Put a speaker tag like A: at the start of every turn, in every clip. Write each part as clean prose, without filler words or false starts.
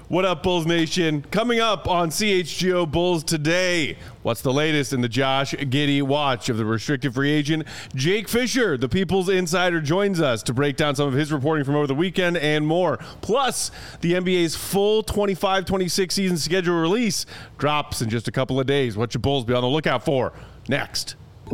A: What up, Bulls Nation? Coming up on CHGO Bulls today, what's the latest in the Josh Giddey watch of the restricted free agent? Jake Fisher, the People's Insider, joins us to break down some of his reporting from over the weekend and more. Plus, the NBA's full 25-26 season schedule release drops in just a couple of days. What should Bulls be on the lookout for? Next.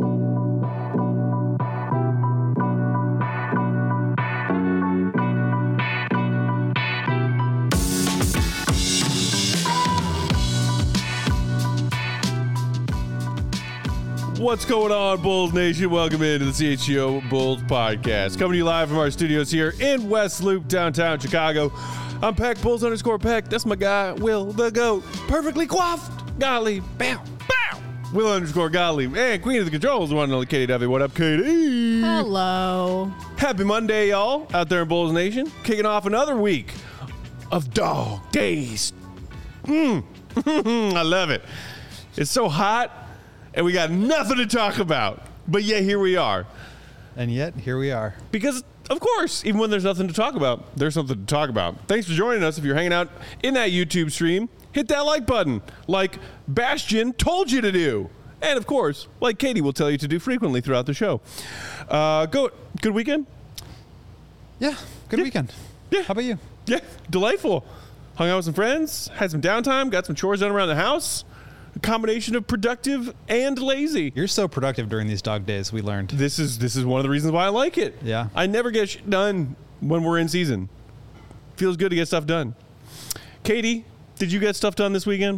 A: What's going on, Bulls Nation? Welcome into the CHGO Bulls podcast. Coming to you live from our studios here in West Loop, downtown Chicago. I'm Peck, Bulls_Peck. That's my guy, Will the GOAT. Perfectly coiffed. Golly, bow, bow. Will_Golly. And Queen of the Controls, the one and only Katie Duffy. What up, Katie?
B: Hello.
A: Happy Monday, y'all, out there in Bulls Nation. Kicking off another week of dog days. I love it. It's so hot. And we got nothing to talk about. But yet, here we are.
C: And yet, here we are.
A: Because, of course, even when there's nothing to talk about, there's something to talk about. Thanks for joining us. If you're hanging out in that YouTube stream, hit that like button, like Bastion told you to do. And, of course, like Katie will tell you to do frequently throughout the show. Good weekend?
C: Yeah, good weekend.
A: Yeah.
C: How about you?
A: Yeah, delightful. Hung out with some friends, had some downtime, got some chores done around the house. A combination of productive and lazy.
C: You're so productive during these dog days, we learned.
A: This is one of the reasons why I like it.
C: Yeah.
A: I never get shit done when we're in season. Feels good to get stuff done. Katie, did you get stuff done this weekend?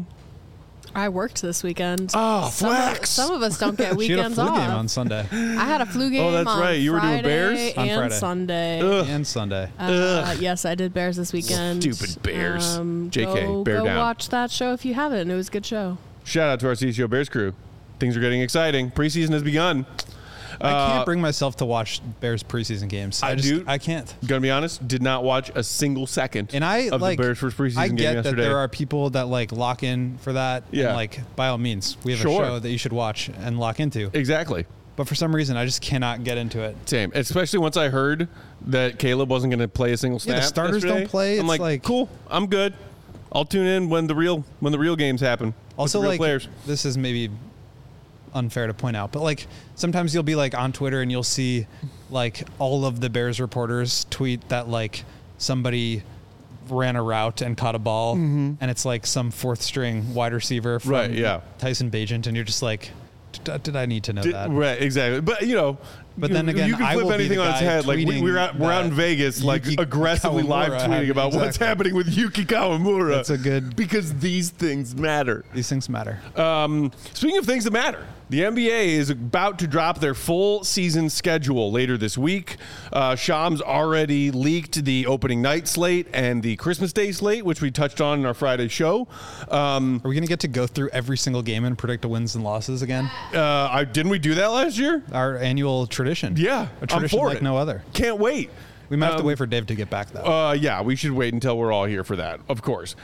B: I worked this weekend.
A: Oh, flex.
B: Some of us don't get weekends
C: she had a flu
B: off.
C: game on Sunday.
B: I had a flu game
A: Oh, that's
B: on
A: right. You were doing
B: Friday
A: Bears?
C: On
B: and
C: Friday.
B: Sunday.
A: Ugh.
C: And Sunday.
B: Yes, I did Bears this weekend.
A: Stupid Bears. JK,
B: go,
A: bear
B: go
A: down.
B: watch that show if you haven't. It was a good show.
A: Shout out to our CCO Bears crew. Things are getting exciting. Preseason has begun.
C: I can't bring myself to watch Bears preseason games. I can't.
A: Gonna be honest, did not watch a single second
C: And
A: of the Bears first preseason
C: I
A: game
C: get
A: yesterday.
C: that there are people that like lock in for that.
A: Yeah.
C: And like, by all means, we have
A: Sure.
C: a show that you should watch and lock into.
A: Exactly.
C: But for some reason, I just cannot get into it.
A: Same. Especially once I heard that Caleb wasn't going to play a single snap.
C: Yeah, the starters
A: yesterday.
C: don't play.
A: I'm
C: It's like
A: cool. I'm good. I'll tune in when the real games happen. with
C: Also,
A: the real
C: like,
A: players.
C: this is maybe unfair to point out, but like sometimes you'll be like on Twitter and you'll see like all of the Bears reporters tweet that like somebody ran a route and caught a ball, and it's like some fourth string wide receiver from
A: Right, yeah.
C: Tyson Bagent, and you're just like, did I need to know that?
A: Right, exactly. But
C: But then again,
A: you can
C: I
A: flip
C: will be
A: anything
C: the
A: on its
C: guy
A: head. Like we're out
C: tweeting
A: in Vegas, like
C: Yuki
A: aggressively live
C: Kawamura
A: tweeting about what's
C: exactly.
A: happening with Yuki Kawamura.
C: That's a good.
A: because these things matter.
C: These things matter.
A: Speaking of things that matter, the NBA is about to drop their full season schedule later this week. Shams already leaked the opening night slate and the Christmas Day slate, which we touched on in our Friday show.
C: Are we going to get to go through every single game and predict the wins and losses again?
A: Didn't we do that last year?
C: Our annual tradition.
A: Yeah,
C: A tradition
A: I'm for
C: like
A: it.
C: no other.
A: Can't wait.
C: We might have to wait for Dave to get back, though.
A: Yeah, we should wait until we're all here for that, of course.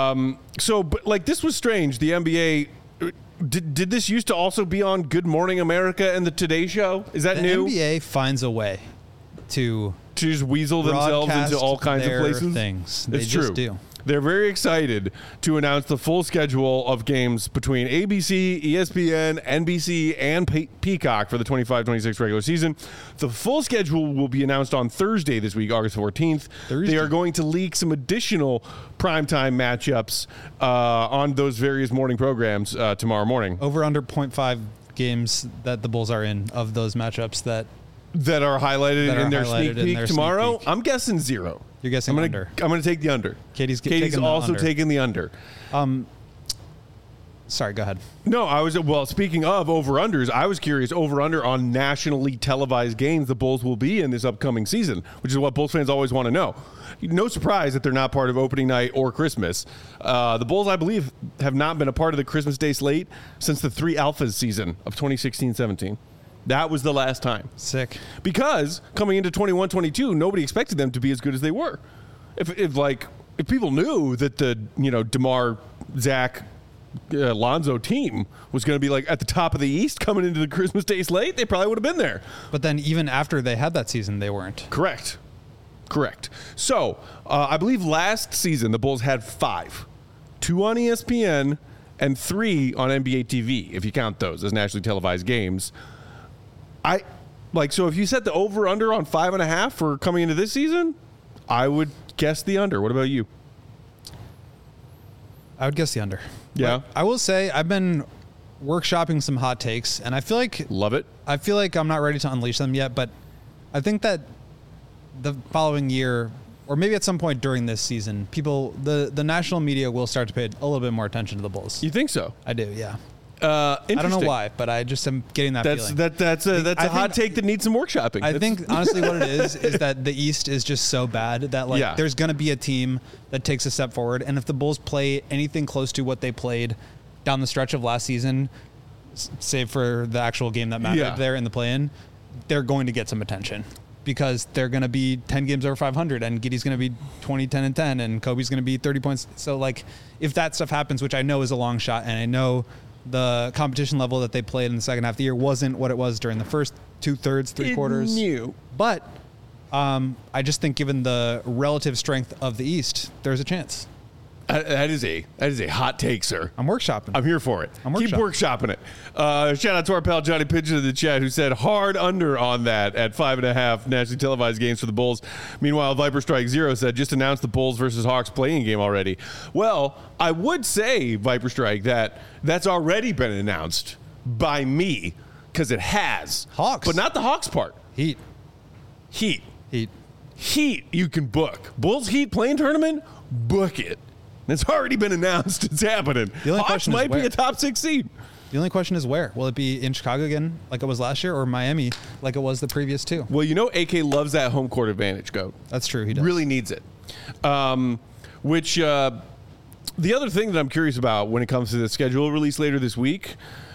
A: But like this was strange. The NBA, did this used to also be on Good Morning America and the Today Show? Is that
C: The
A: new?
C: NBA finds a way to
A: just weasel themselves
C: broadcast
A: into all kinds of
C: their
A: places.
C: things. They
A: It's
C: just
A: true.
C: do.
A: They're very excited to announce the full schedule of games between ABC, ESPN, NBC, and Peacock for the 25-26 regular season. The full schedule will be announced on Thursday this week, August 14th.
C: Thursday.
A: They are going to leak some additional primetime matchups on those various morning programs tomorrow morning.
C: Over under 0.5 games that the Bulls are in of those matchups that
A: That are highlighted
C: That are
A: in their
C: highlighted
A: sneak
C: in
A: peek
C: their sneak
A: tomorrow.
C: peek.
A: I'm guessing 0.
C: you're guessing under.
A: I'm going to take the under.
C: Katie's
A: Katie's
C: taking the
A: also
C: under.
A: taking the under.
C: Sorry, go ahead.
A: No, speaking of over-unders, I was curious over-under on nationally televised games the Bulls will be in this upcoming season, which is what Bulls fans always want to know. No surprise that they're not part of opening night or Christmas. The Bulls, I believe, have not been a part of the Christmas Day slate since the 3 Alphas season of 2016-17. That was the last time.
C: Sick.
A: Because coming into 21-22, nobody expected them to be as good as they were. If people knew that the DeMar, Zach, Lonzo team was going to be like at the top of the East coming into the Christmas Day slate, they probably would have been there.
C: But then even after they had that season, they weren't.
A: Correct. Correct. So, I believe last season the Bulls had 5. 2 on ESPN and 3 on NBA TV, if you count those as nationally televised games. So if you set the over-under on 5.5 for coming into this season, I would guess the under. What about you?
C: I would guess the under.
A: Yeah.
C: But I will say I've been workshopping some hot takes, and I feel like
A: Love it.
C: I'm not ready to unleash them yet, but I think that the following year, or maybe at some point during this season, the national media will start to pay a little bit more attention to the Bulls.
A: You think so?
C: I do, yeah.
A: I
C: don't know why, but I just am getting that feeling.
A: That's a hot take that needs some workshopping.
C: I think honestly what it is that the East is just so bad that there's going to be a team that takes a step forward, and if the Bulls play anything close to what they played down the stretch of last season, save for the actual game that mattered there in the play-in, they're going to get some attention because they're going to be 10 games over 500, and Giddey's going to be 20, 10, and 10, and Kobe's going to be 30 points. So if that stuff happens, which I know is a long shot, and I know the competition level that they played in the second half of the year wasn't what it was during the first 2/3, 3/4.
A: New.
C: But I just think given the relative strength of the East, there's a chance.
A: That is a hot take, sir.
C: I'm workshopping.
A: I'm here for it. Keep workshopping it. Shout out to our pal Johnny Pigeon in the chat who said hard under on that at 5.5 nationally televised games for the Bulls. Meanwhile, Viper Strike Zero said just announced the Bulls versus Hawks playing game already. Well, I would say, Viper Strike, that's already been announced by me because it has.
C: Hawks.
A: But not the Hawks part.
C: Heat.
A: You can book. Bulls Heat playing tournament, book it. It's already been announced. It's happening.
C: The only
A: Hawks
C: question is
A: might be
C: where.
A: a top 6 seed.
C: The only question is where. Will it be in Chicago again like it was last year, or Miami like it was the previous 2?
A: Well, AK loves that home court advantage, Goat.
C: That's true. He does.
A: Really needs it. The other thing that I'm curious about when it comes to the schedule release later this week,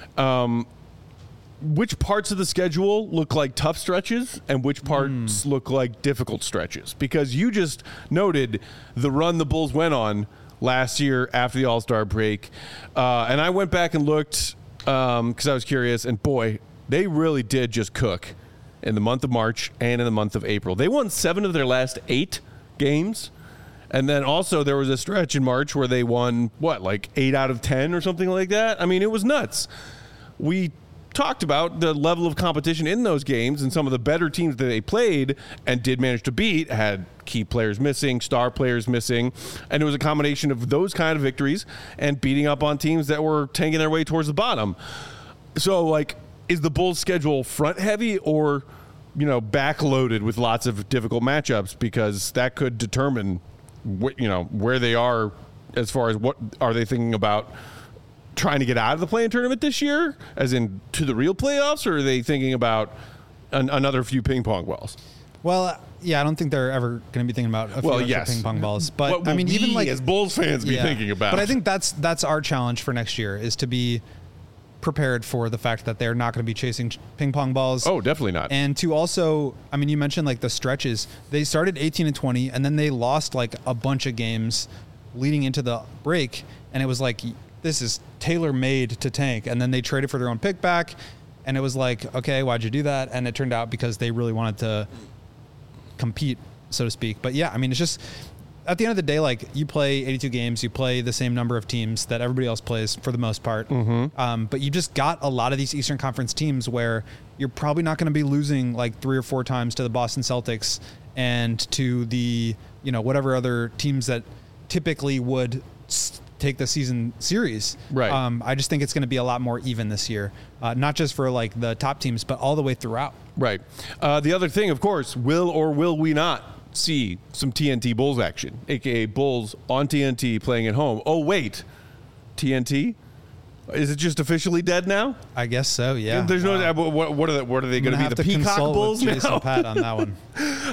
A: which parts of the schedule look like tough stretches and which parts look like difficult stretches? Because you just noted the run the Bulls went on last year after the All-Star break. And I went back and looked because I was curious. And, boy, they really did just cook in the month of March and in the month of April. They won 7 of their last 8 games. And then also there was a stretch in March where they won, 8 out of 10 or something like that? I mean, it was nuts. We talked about the level of competition in those games, and some of the better teams that they played and did manage to beat had key players missing, star players missing, and it was a combination of those kind of victories and beating up on teams that were tanking their way towards the bottom. So, is the Bulls' schedule front heavy or, backloaded with lots of difficult matchups? Because that could determine, where they are as far as what are they thinking about trying to get out of the play-in tournament this year, as in to the real playoffs, or are they thinking about another few ping pong balls?
C: Well, yeah, I don't think they're ever going to be thinking about a few extra ping pong balls. But
A: what even as Bulls fans be thinking about?
C: But I think that's our challenge for next year, is to be prepared for the fact that they're not going to be chasing ping pong balls.
A: Oh, definitely not.
C: And to also, you mentioned the stretches. They started 18-20, and then they lost a bunch of games leading into the break, and it was this is tailor-made to tank. And then they traded for their own pick back, and it was okay, why'd you do that? And it turned out because they really wanted to compete, so to speak. But yeah, it's just at the end of the day, you play 82 games, you play the same number of teams that everybody else plays for the most part.
A: Mm-hmm.
C: But you just got a lot of these Eastern Conference teams where you're probably not going to be losing 3 or 4 times to the Boston Celtics and to the, whatever other teams that typically would take the season series.
A: Right.
C: I just think it's going to be a lot more even this year, not just for the top teams, but all the way throughout.
A: Right. The other thing, of course, will or will we not see some TNT Bulls action, aka Bulls on TNT playing at home? Oh wait, TNT? Is it just officially dead now?
C: I guess so. Yeah.
A: There's no. What are they going to be? The Peacock Bulls now?
C: Jason Pat on that one.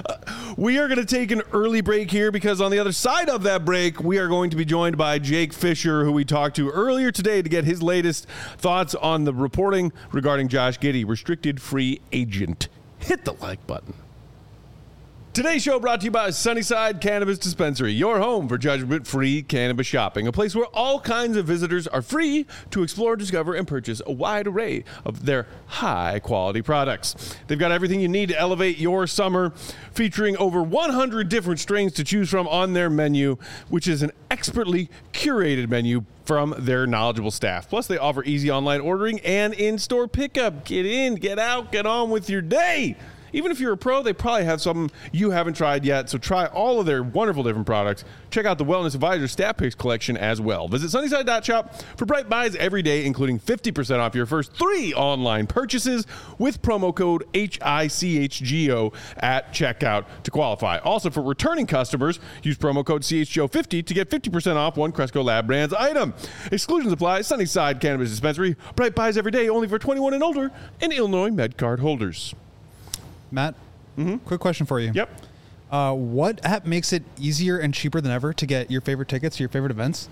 A: We are going to take an early break here because on the other side of that break, we are going to be joined by Jake Fisher, who we talked to earlier today to get his latest thoughts on the reporting regarding Josh Giddey, restricted free agent. Hit the like button. Today's show brought to you by Sunnyside Cannabis Dispensary, your home for judgment-free cannabis shopping, a place where all kinds of visitors are free to explore, discover, and purchase a wide array of their high-quality products. They've got everything you need to elevate your summer, featuring over 100 different strains to choose from on their menu, which is an expertly curated menu from their knowledgeable staff. Plus, they offer easy online ordering and in-store pickup. Get in, get out, get on with your day. Even if you're a pro, they probably have something you haven't tried yet. So try all of their wonderful different products. Check out the Wellness Advisor Staff Picks collection as well. Visit Sunnyside.shop for bright buys every day, including 50% off your first 3 online purchases with promo code HICHGO at checkout to qualify. Also, for returning customers, use promo code CHGO50 to get 50% off one Cresco Lab Brands item. Exclusions apply. Sunnyside Cannabis Dispensary. Bright buys every day, only for 21 and older and Illinois MedCard holders.
C: Matt, quick question for you.
A: Yep.
C: What app makes it easier and cheaper than ever to get your favorite tickets to your favorite events?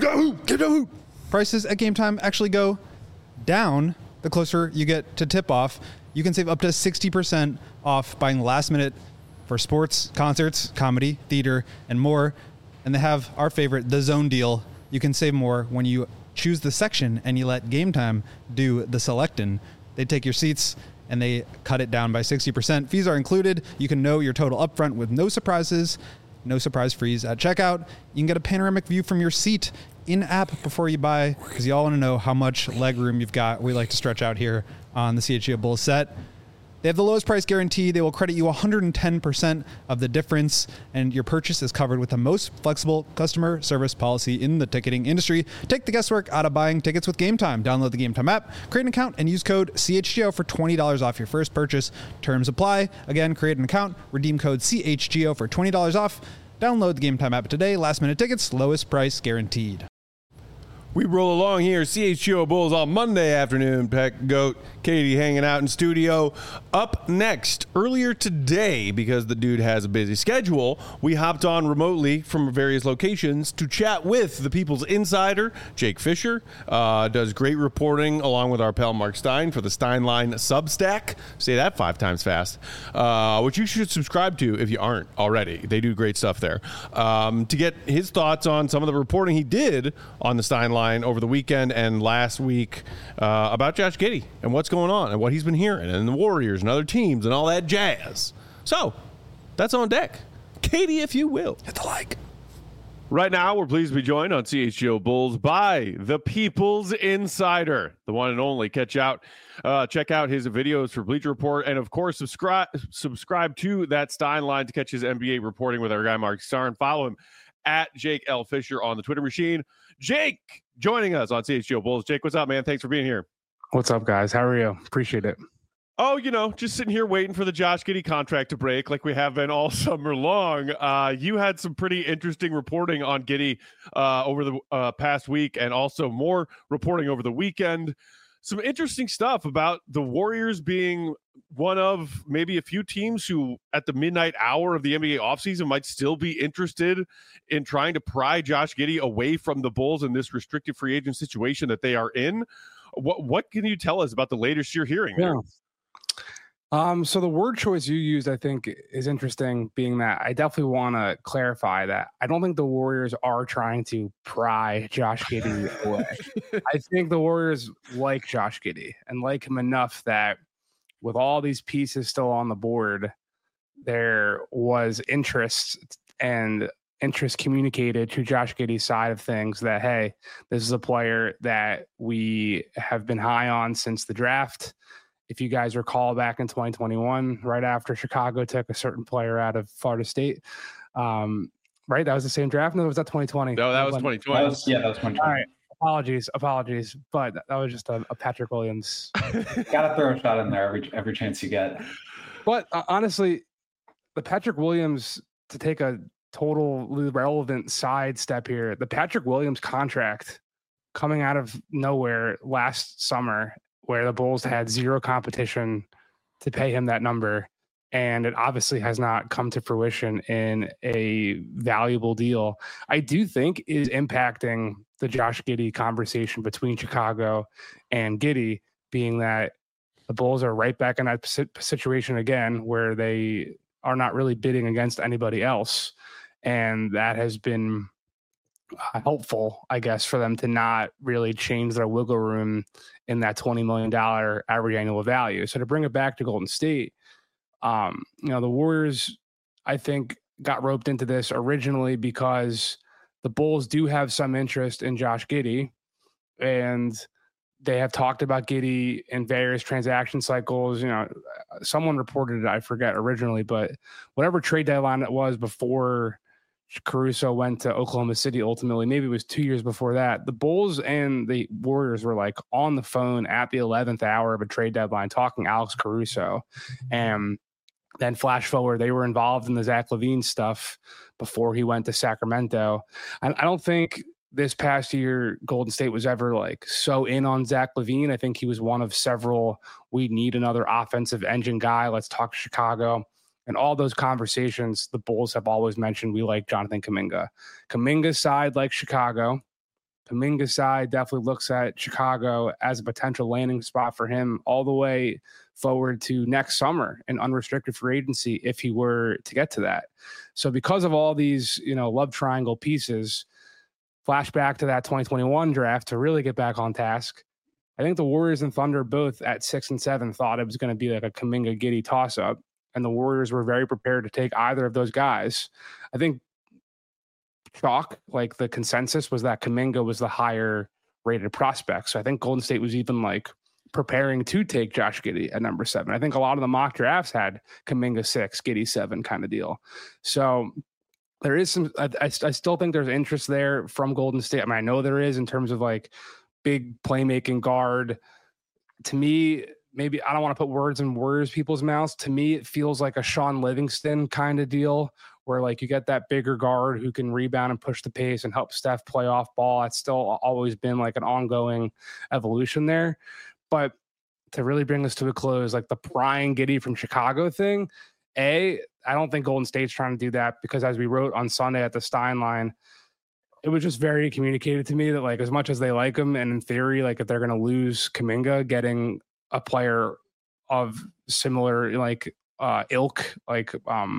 C: Prices at Game Time actually go down the closer you get to tip-off. You can save up to 60% off buying last minute for sports, concerts, comedy, theater, and more. And they have our favorite, the Zone deal. You can save more when you choose the section and you let Game Time do the selecting. They take your seats and they cut it down by 60%. Fees are included. You can know your total upfront with no surprises, no surprise fees at checkout. You can get a panoramic view from your seat in-app before you buy, because you all want to know how much leg room you've got. We like to stretch out here on the CHGO Bulls set. They have the lowest price guarantee. They will credit you 110% of the difference, and your purchase is covered with the most flexible customer service policy in the ticketing industry. Take the guesswork out of buying tickets with Game Time. Download the Game Time app, create an account, and use code CHGO for $20 off your first purchase. Terms apply. Again, create an account, redeem code CHGO for $20 off. Download the Game Time app today. Last minute tickets, lowest price guaranteed.
A: We roll along here, CHGO Bulls on Monday afternoon. Peck, Goat, Katie hanging out in studio. Up next, earlier today, because the dude has a busy schedule, we hopped on remotely from various locations to chat with the People's Insider, Jake Fisher. Does great reporting along with our pal Mark Stein for the Steinline Substack. Say that 5 times fast. Which you should subscribe to if you aren't already. They do great stuff there. To get his thoughts on some of the reporting he did on the Steinline over the weekend and last week about Josh Giddey and what's going on and what he's been hearing and the Warriors and other teams and all that jazz. So that's on deck. Katie, if you will.
C: Hit the like.
A: Right now, we're pleased to be joined on CHGO Bulls by the People's Insider, the one and only. Check out his videos for Bleacher Report, and of course, subscribe to that Steinline to catch his NBA reporting with our guy Mark Stein. Follow him at Jake L. Fisher on the Twitter machine. Jake joining us on CHGO Bulls. Jake, what's up, man? Thanks for being here.
D: What's up, guys? How are you? Appreciate it.
A: Oh, just sitting here waiting for the Josh Giddey contract to break like we have been all summer long. You had some pretty interesting reporting on Giddey over the past week, and also more reporting over the weekend. Some interesting stuff about the Warriors being one of maybe a few teams who at the midnight hour of the NBA offseason might still be interested in trying to pry Josh Giddey away from the Bulls in this restricted free agent situation that they are in. What can you tell us about the latest you're hearing there?
D: So the word choice you used, I think, is interesting, being that I definitely want to clarify that I don't think the Warriors are trying to pry Josh Giddey away. I think the Warriors like Josh Giddey and like him enough that with all these pieces still on the board, there was interest communicated to Josh Giddey's side of things that, hey, this is a player that we have been high on since the draft. If you guys recall back in 2021, right after Chicago took a certain player out of Florida State, right? That was the same draft? No, was that 2020?
A: No, that was 2020.
E: That was 2020.
D: All right. Apologies. But that was just a Patrick Williams.
E: Got to throw a shot in there every chance you get.
D: But honestly, the Patrick Williams, to take a totally relevant side step here, the Patrick Williams contract coming out of nowhere last summer, where the Bulls had zero competition to pay him that number. And it obviously has not come to fruition in a valuable deal. I do think is impacting the Josh Giddey conversation between Chicago and Giddey, being that the Bulls are right back in that situation again, where they are not really bidding against anybody else. And that has been helpful, I guess, for them to not really change their wiggle room in that $20 million average annual value. So to bring it back to Golden State, the Warriors, I think, got roped into this originally because the Bulls do have some interest in Josh Giddey, and they have talked about Giddey in various transaction cycles. Someone reported it, I forget originally, but whatever trade deadline it was before Caruso went to Oklahoma City, ultimately, maybe it was 2 years before that, the Bulls and the Warriors were like on the phone at the 11th hour of a trade deadline talking Alex Caruso. And then flash forward, they were involved in the Zach LaVine stuff before he went to Sacramento. I don't think this past year Golden State was ever like so in on Zach LaVine. I think he was one of several, we need another offensive engine guy. Let's talk Chicago. And all those conversations, the Bulls have always mentioned we like Jonathan Kuminga. Kuminga's side likes Chicago. Kuminga's side definitely looks at Chicago as a potential landing spot for him all the way forward to next summer in unrestricted free agency if he were to get to that. So because of all these, love triangle pieces, flashback to that 2021 draft to really get back on task, I think the Warriors and Thunder both at 6 and 7 thought it was going to be like a Kuminga-Giddey toss-up. And the Warriors were very prepared to take either of those guys. I think the consensus was that Kuminga was the higher rated prospect. So I think Golden State was even like preparing to take Josh Giddey at number 7. I think a lot of the mock drafts had Kuminga 6, Giddey 7 kind of deal. So there is some, I still think there's interest there from Golden State. I mean, I know there is in terms of like big playmaking guard. To me, maybe I don't want to put words in Warriors people's mouths. To me, it feels like a Sean Livingston kind of deal where like you get that bigger guard who can rebound and push the pace and help Steph play off ball. That's still always been like an ongoing evolution there. But to really bring this to a close, like the Brian Giddey from Chicago thing, I don't think Golden State's trying to do that because as we wrote on Sunday at the Stein line, it was just very communicated to me that like as much as they like him and in theory, like if they're going to lose Kuminga, getting a player of similar like ilk, like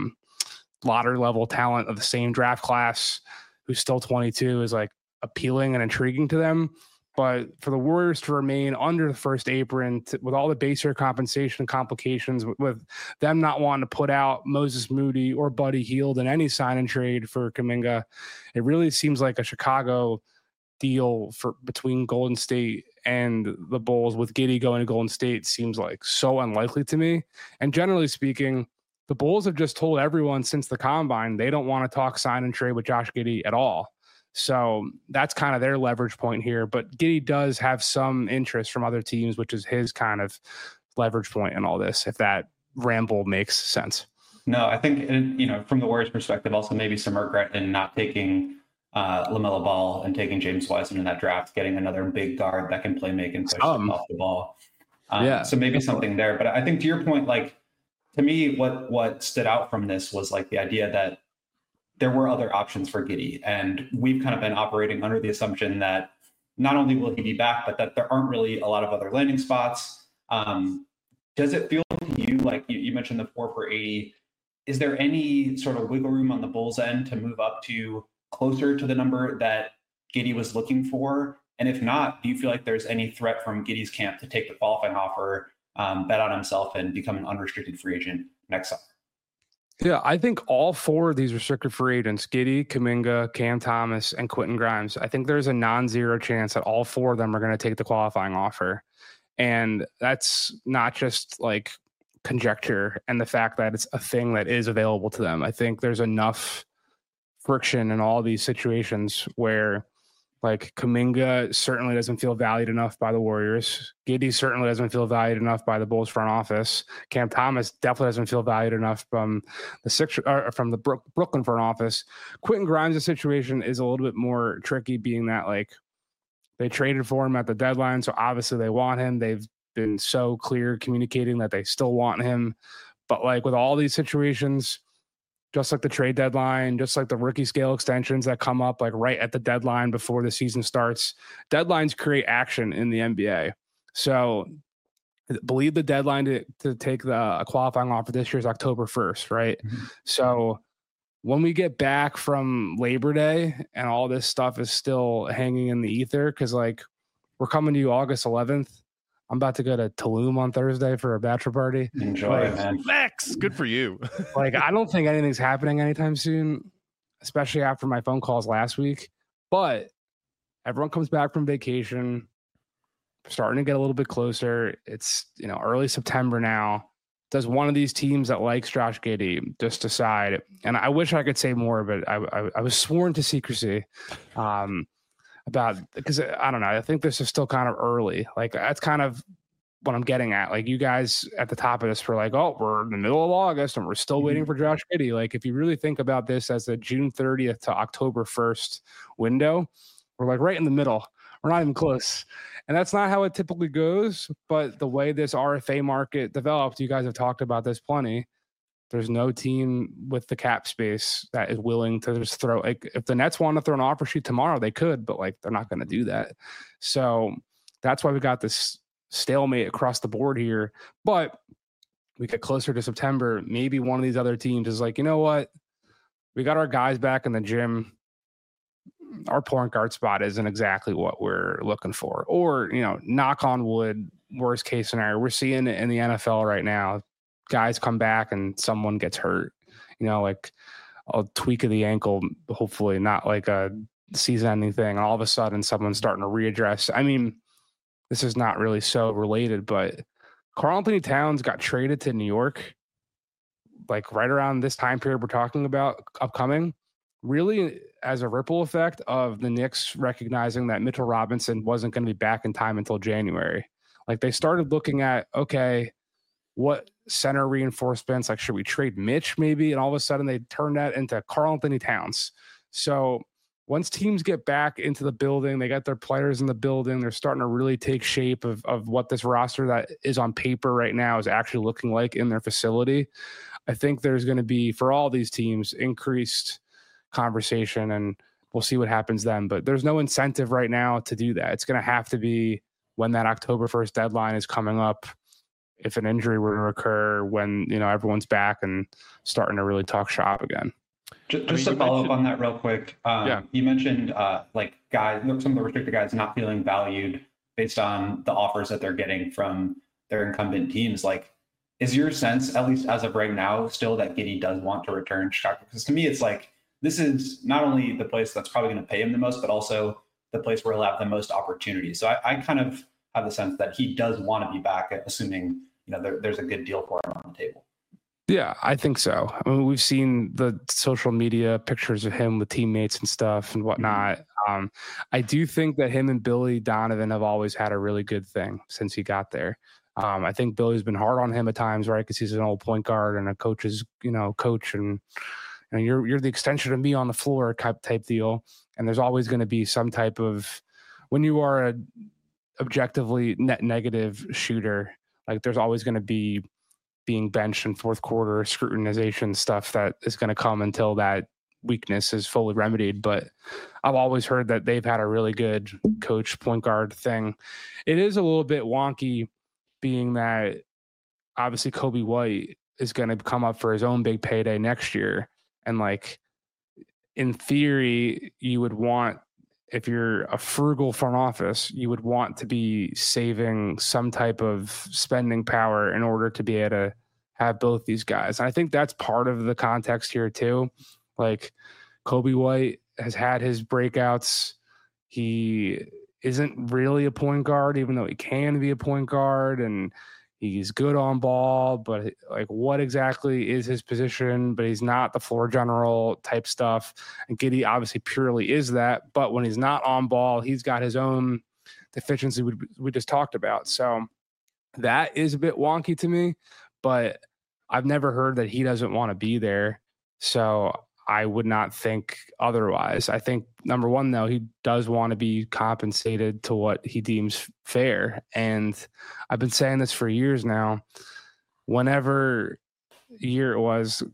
D: lottery level talent of the same draft class who's still 22 is like appealing and intriguing to them. But for the Warriors to remain under the first apron with all the base year compensation complications, with them not wanting to put out Moses Moody or Buddy Hield in any sign and trade for Kuminga, it really seems like a Chicago deal between Golden State and the Bulls, with Giddey going to Golden State seems like so unlikely to me. And generally speaking, the Bulls have just told everyone since the combine they don't want to talk sign and trade with Josh Giddey at all. So that's kind of their leverage point here. But Giddey does have some interest from other teams, which is his kind of leverage point in all this, if that ramble makes sense.
E: No, I think, from the Warriors perspective, also maybe some regret in not taking LaMelo Ball and taking James Wiseman in that draft, getting another big guard that can play make and push off the ball. So maybe something there. But I think to your point, like, to me, what stood out from this was like the idea that there were other options for Giddey. And we've kind of been operating under the assumption that not only will he be back, but that there aren't really a lot of other landing spots. Does it feel to you like you mentioned the 4 for 80? Is there any sort of wiggle room on the Bulls end to move up to closer to the number that Giddey was looking for? And if not, do you feel like there's any threat from Giddey's camp to take the qualifying offer, bet on himself, and become an unrestricted free agent next summer?
D: Yeah, I think all 4 of these restricted free agents, Giddey, Kuminga, Cam Thomas, and Quentin Grimes, I think there's a non-zero chance that all 4 of them are going to take the qualifying offer. And that's not just like conjecture and the fact that it's a thing that is available to them. I think there's enough friction in all these situations where like Kuminga certainly doesn't feel valued enough by the Warriors. Giddey certainly doesn't feel valued enough by the Bulls front office. Cam Thomas definitely doesn't feel valued enough from the Brooklyn front office. Quentin Grimes' situation is a little bit more tricky, being that like they traded for him at the deadline, so obviously they want him. They've been so clear communicating that they still want him. But like with all these situations, just like the trade deadline, just like the rookie scale extensions that come up like right at the deadline before the season starts, deadlines create action in the NBA. So I believe the deadline to take a qualifying offer this year is October 1st, right? Mm-hmm. So when we get back from Labor Day and all this stuff is still hanging in the ether, because like we're coming to you August 11th. I'm about to go to Tulum on Thursday for a bachelor party.
E: Enjoy, man.
A: Flex. Good for you.
D: Like, I don't think anything's happening anytime soon, especially after my phone calls last week. But everyone comes back from vacation, starting to get a little bit closer. It's, early September now. Does one of these teams that likes Josh Giddey just decide? And I wish I could say more, but I was sworn to secrecy. Because I don't know. I think this is still kind of early. Like, that's kind of what I'm getting at. Like, you guys at the top of this were like, oh, we're in the middle of August and we're still waiting for Josh Giddey. Like, if you really think about this as a June 30th to October 1st window, we're like right in the middle. We're not even close. And that's not how it typically goes. But the way this RFA market developed, you guys have talked about this plenty. There's no team with the cap space that is willing to just throw, like, if the Nets want to throw an offer sheet tomorrow, they could, but like, they're not going to do that. So that's why we got this stalemate across the board here. But we get closer to September. Maybe one of these other teams is like, you know what? We got our guys back in the gym. Our point guard spot isn't exactly what we're looking for. Or, knock on wood, worst case scenario. We're seeing it in the NFL right now. Guys come back and someone gets hurt, like a tweak of the ankle, hopefully not like a season-ending thing. And all of a sudden someone's starting to readdress. I mean, this is not really so related, but Karl-Anthony Towns got traded to New York, like right around this time period we're talking about upcoming, really as a ripple effect of the Knicks recognizing that Mitchell Robinson wasn't going to be back in time until January. Like, they started looking at, okay, what center reinforcements, like, should we trade Mitch maybe? And all of a sudden they turned that into Karl-Anthony Towns. So once teams get back into the building, they got their players in the building, they're starting to really take shape of what this roster that is on paper right now is actually looking like in their facility. I think there's going to be, for all these teams, increased conversation, and we'll see what happens then. But there's no incentive right now to do that. It's going to have to be when that October 1st deadline is coming up, if an injury were to occur, when everyone's back and starting to really talk shop again.
E: Just to follow up on that real quick, you mentioned like guys, some of the restricted guys not feeling valued based on the offers that they're getting from their incumbent teams. Like, is your sense, at least as of right now, still that Giddey does want to return to Chicago? Because to me, it's like, this is not only the place that's probably going to pay him the most, but also the place where he'll have the most opportunity. So I kind of have the sense that he does want to be back, assuming there's a good deal for him on the table.
D: Yeah, I think so. I mean, we've seen the social media pictures of him with teammates and stuff and whatnot. I do think that him and Billy Donovan have always had a really good thing since he got there. I think Billy's been hard on him at times, right? Because he's an old point guard and a coach's, coach, and you're the extension of me on the floor type deal. And there's always going to be some type of, when you are a objectively net negative shooter, like, there's always going to be being benched in fourth quarter scrutinization stuff that is going to come until that weakness is fully remedied. But I've always heard that they've had a really good coach point guard thing. It is a little bit wonky, being that obviously Kobe White is going to come up for his own big payday next year. And like, in theory, you would want, if you're a frugal front office, you would want to be saving some type of spending power in order to be able to have both these guys. And I think that's part of the context here too. Like, Kobe White has had his breakouts. He isn't really a point guard, even though he can be a point guard, and he's good on ball, but like, what exactly is his position? But he's not the floor general type stuff. And Giddey obviously purely is that. But when he's not on ball, he's got his own deficiency we just talked about. So that is a bit wonky to me, but I've never heard that he doesn't want to be there. So I would not think otherwise. I think, number one, though, he does want to be compensated to what he deems fair. And I've been saying this for years now. Whenever year it was,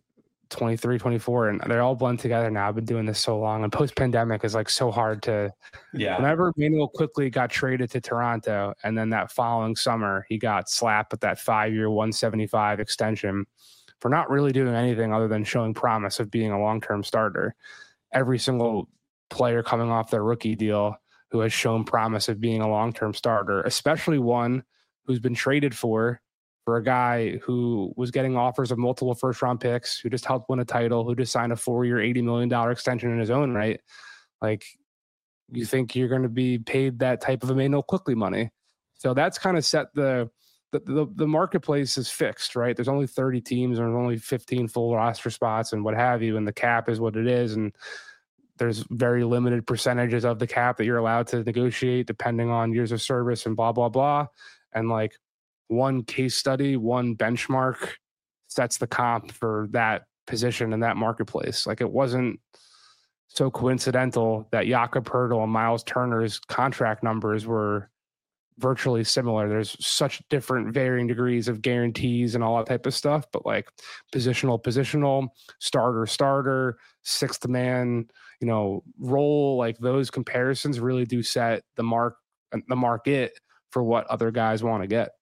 D: 23, 24, and they're all blend together now. I've been doing this so long, and post-pandemic is like so hard to.
E: Yeah.
D: Whenever Manuel quickly got traded to Toronto, and then that following summer he got slapped with that 5-year, 175 extension for not really doing anything other than showing promise of being a long-term starter. Every single player coming off their rookie deal who has shown promise of being a long-term starter, especially one who's been traded for a guy who was getting offers of multiple first-round picks, who just helped win a title, who just signed a 4-year, $80 million extension in his own right. Like, you think you're going to be paid that type of Emmanuel Quickley money. So that's kind of set the marketplace is fixed, right? There's only 30 teams, and there's only 15 full roster spots and what have you, and the cap is what it is. And there's very limited percentages of the cap that you're allowed to negotiate depending on years of service and blah, blah, blah. And like, one case study, one benchmark sets the comp for that position in that marketplace. Like, it wasn't so coincidental that Jakob Poeltl and Miles Turner's contract numbers were virtually similar. There's such different varying degrees of guarantees and all that type of stuff, but like positional, starter, sixth man, role, like those comparisons really do set the market for what other guys want to get.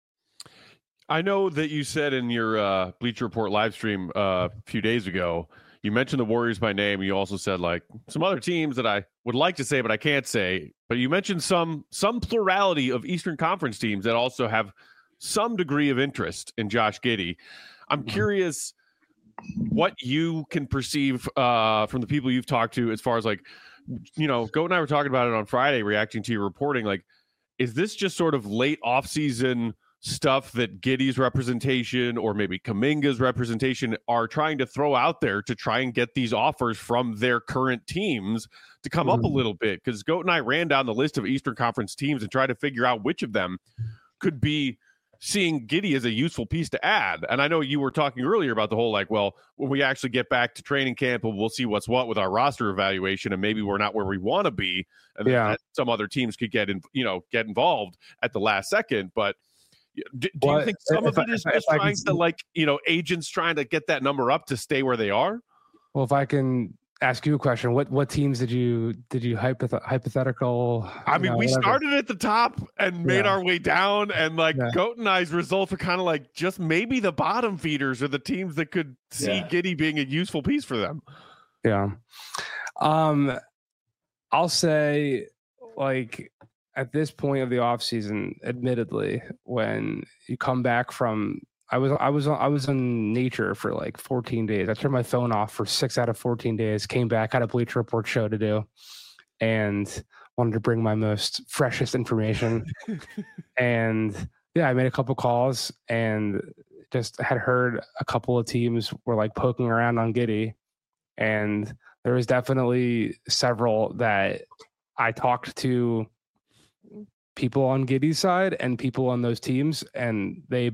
A: I know that you said in your Bleacher Report live stream a few days ago, you mentioned the Warriors by name. You also said like some other teams that I would like to say, but I can't say. But you mentioned some plurality of Eastern Conference teams that also have some degree of interest in Josh Giddey. I'm curious what you can perceive from the people you've talked to as far as like, Goat and I were talking about it on Friday, reacting to your reporting. Like, is this just sort of late offseason stuff that Giddey's representation or maybe Kuminga's representation are trying to throw out there to try and get these offers from their current teams to come up a little bit? Because Goat and I ran down the list of Eastern Conference teams and tried to figure out which of them could be seeing Giddey as a useful piece to add. And I know you were talking earlier about the whole, like, well, when we actually get back to training camp, we'll see what's what with our roster evaluation, and maybe we're not where we want to be. And that some other teams could get involved at the last second. But do you think some of it is just trying to agents trying to get that number up to stay where they are?
D: Well, if I can ask you a question, what teams did you hypothetical?
A: I mean, we started at the top and made our way down, and Goat and I's results are kind of like just maybe the bottom feeders are the teams that could see Giddey being a useful piece for them.
D: Yeah. I'll say, like, at this point of the offseason, admittedly, when you come back from, I was in nature for like 14 days. I turned my phone off for 6 out of 14 days, came back, had a Bleacher Report show to do, and wanted to bring my most freshest information. And I made a couple calls and just had heard a couple of teams were like poking around on Giddey. And there was definitely several that I talked to, people on Giddey's side and people on those teams, and they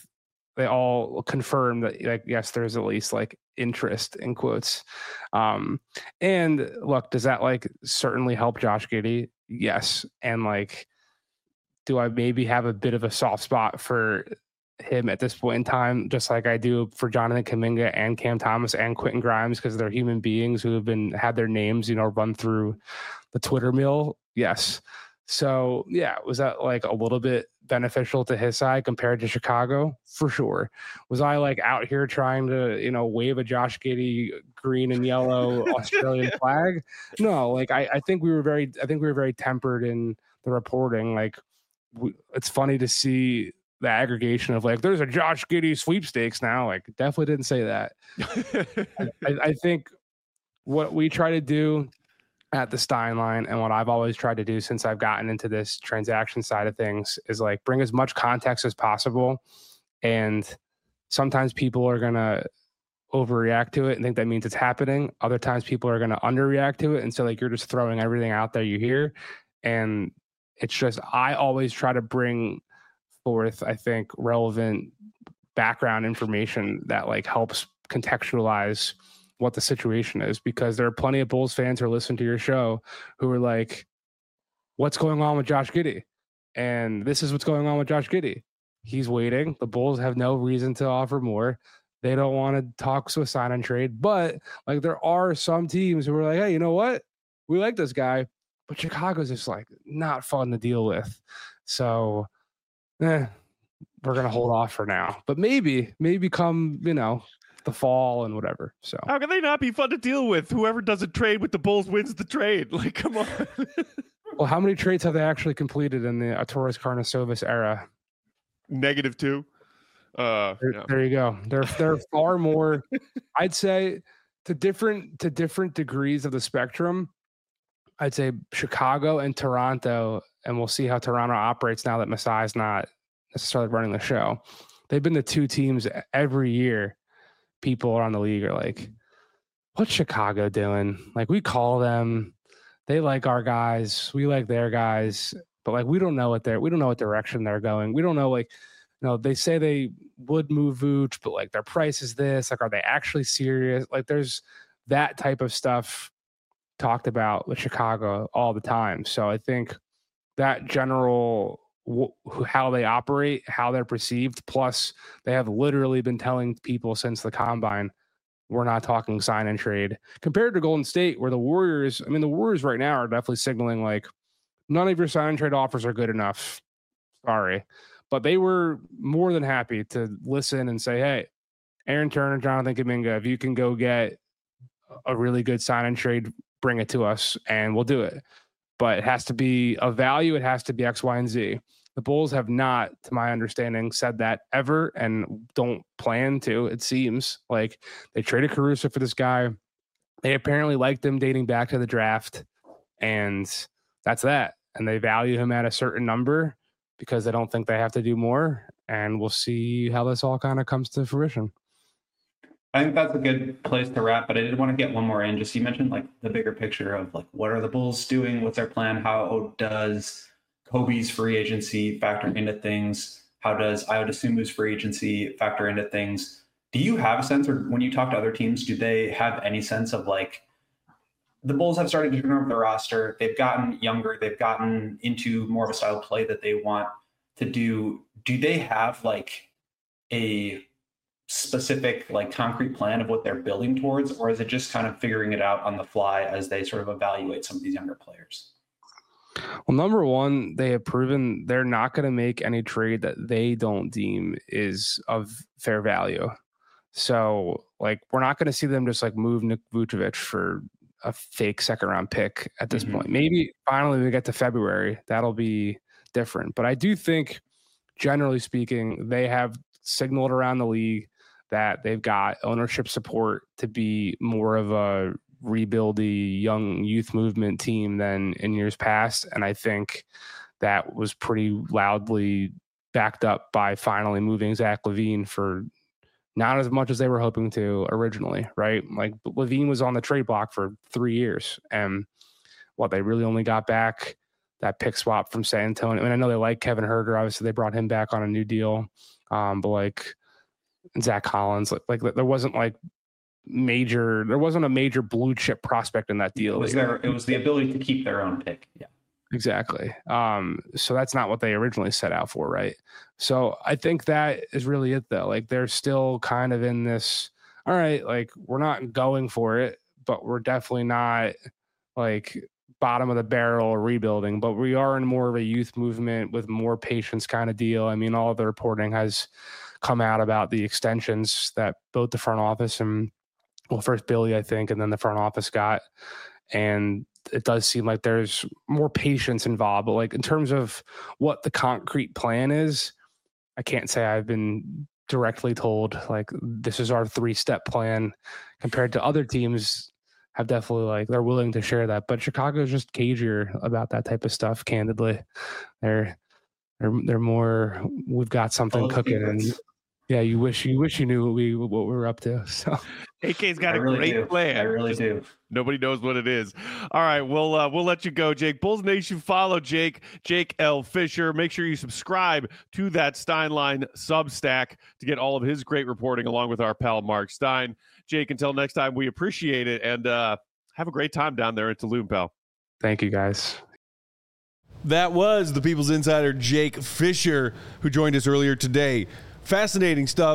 D: all confirmed that, like, yes, there's at least like interest in quotes. And look, does that like certainly help Josh Giddey? Yes. And like, do I maybe have a bit of a soft spot for him at this point in time, just like I do for Jonathan Kuminga and Cam Thomas and Quentin Grimes, because they're human beings who have had their names, run through the Twitter mill? Yes. So was that like a little bit beneficial to his side compared to Chicago? For sure. Was I like out here trying to, wave a Josh Giddey green and yellow Australian flag? No, like I think we were very tempered in the reporting. Like, it's funny to see the aggregation of like, there's a Josh Giddey sweepstakes now. Like, definitely didn't say that. I think what we try to do at the Stein line, and what I've always tried to do since I've gotten into this transaction side of things, is like bring as much context as possible. And sometimes people are going to overreact to it and think that means it's happening. Other times people are going to underreact to it. And so like, you're just throwing everything out there you hear. And it's just, I always try to bring forth, I think, relevant background information that like helps contextualize what the situation is, because there are plenty of Bulls fans who are listening to your show who are like, what's going on with Josh Giddey? And this is what's going on with Josh Giddey. He's waiting. The Bulls have no reason to offer more. They don't want to talk to a sign and trade. But like there are some teams who are like, hey, you know what? We like this guy, but Chicago's just like not fun to deal with. So we're gonna hold off for now. But maybe come, the fall and whatever. So
A: how can they not be fun to deal with? Whoever doesn't trade with the Bulls wins the trade. Like, come on.
D: Well, how many trades have they actually completed in the Torres Karnisovas era?
A: -2.
D: There you go. They're far more. I'd say to different degrees of the spectrum. I'd say Chicago and Toronto, and we'll see how Toronto operates now that Masai's not necessarily running the show. They've been the two teams every year. People around the league are like, what's Chicago doing? Like, we call them, they like our guys, we like their guys, but like we don't know what direction they're going. We don't know, like, they say they would move Vooch, but like their price is this. Like, are they actually serious? Like, there's that type of stuff talked about with Chicago all the time. So I think that general how they operate, how they're perceived. Plus, they have literally been telling people since the combine, we're not talking sign and trade. Compared to Golden State, where the Warriors right now are definitely signaling like, none of your sign and trade offers are good enough. Sorry. But they were more than happy to listen and say, hey, Aaron Turner, Jonathan Kuminga, if you can go get a really good sign and trade, bring it to us and we'll do it. But it has to be of value. It has to be X, Y, and Z. The Bulls have not, to my understanding, said that ever and don't plan to. It seems like they traded Caruso for this guy. They apparently liked him dating back to the draft, and that's that. And they value him at a certain number because they don't think they have to do more. And we'll see how this all kind of comes to fruition.
E: I think that's a good place to wrap, but I did want to get one more in. Just you mentioned like the bigger picture of like, what are the Bulls doing? What's their plan? How does Kobe's free agency factor into things? How does Ayo Dosunmu's free agency factor into things? Do you have a sense, or when you talk to other teams, do they have any sense of like, the Bulls have started to turn over the roster. They've gotten younger. They've gotten into more of a style of play that they want to do. Do they have like a specific, like concrete plan of what they're building towards, or is it just kind of figuring it out on the fly as they sort of evaluate some of these younger players?
D: Well, number one, they have proven they're not going to make any trade that they don't deem is of fair value. So, like, we're not going to see them just like move Nick Vucevic for a fake second round pick at this point. Maybe finally we get to February, that'll be different. But I do think, generally speaking, they have signaled around the league that they've got ownership support to be more of a rebuildy young youth movement team than in years past. And I think that was pretty loudly backed up by finally moving Zach LaVine for not as much as they were hoping to originally, right? Like LaVine was on the trade block for 3 years, and they really only got back that pick swap from San Antonio. I mean, I know they like Kevin Huerter. Obviously, they brought him back on a new deal. But like Zach Collins, like there wasn't a major blue chip prospect in that deal.
E: It was the ability to keep their own pick. Yeah,
D: exactly. So that's not what they originally set out for, right? So I think that is really it, though. Like they're still kind of in this, all right, like we're not going for it, but we're definitely not like bottom of the barrel or rebuilding, but we are in more of a youth movement with more patience kind of deal. I mean, all of the reporting has come out about the extensions that both the front office and, well, first Billy, I think, and then the front office got. And it does seem like there's more patience involved. But like in terms of what the concrete plan is, I can't say I've been directly told like this is our 3-step plan compared to other teams have definitely like they're willing to share that. But Chicago's just cagier about that type of stuff, candidly. They're more, we've got something cooking, and yeah, you wish you knew what we were up to. So
A: AK's got a great plan.
E: I really do.
A: Nobody knows what it is. All right, we'll let you go, Jake. Bulls Nation, follow Jake L. Fisher. Make sure you subscribe to that Steinline Substack to get all of his great reporting along with our pal Mark Stein. Jake, until next time, we appreciate it, and have a great time down there in Tulum, pal.
D: Thank you, guys.
A: That was the People's Insider, Jake Fisher, who joined us earlier today. Fascinating stuff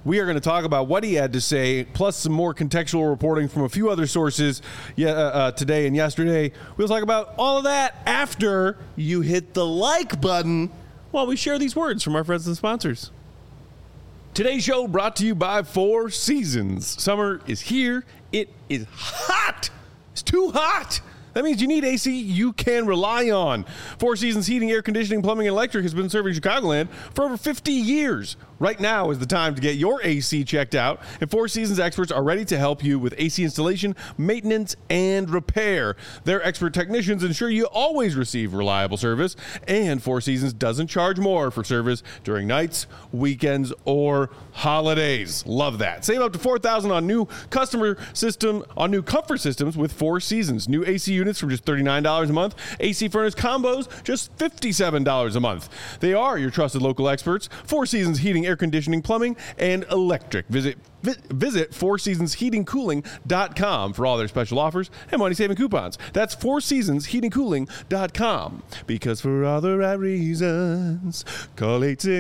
A: We are going to talk about what he had to say, plus some more contextual reporting from a few other sources today and yesterday. We'll talk about all of that after you hit the like button while we share these words from our friends and sponsors. Today's show brought to you by Four Seasons. Summer is here. It is hot. It's too hot. That means you need AC you can rely on. Four Seasons Heating, Air Conditioning, Plumbing, and Electric has been serving Chicagoland for over 50 years. Right now is the time to get your AC checked out, and Four Seasons experts are ready to help you with AC installation, maintenance, and repair. Their expert technicians ensure you always receive reliable service, and Four Seasons doesn't charge more for service during nights, weekends, or holidays. Love that. Save up to $4,000 on new new comfort systems with Four Seasons. New AC units from just $39 a month. AC furnace combos just $57 a month. They are your trusted local experts. Four Seasons Heating, Air Conditioning, Plumbing, and Electric. Visit fourseasonsheatingcooling.com for all their special offers and money-saving coupons. That's fourseasonsheatingcooling.com. Because for all the right reasons, call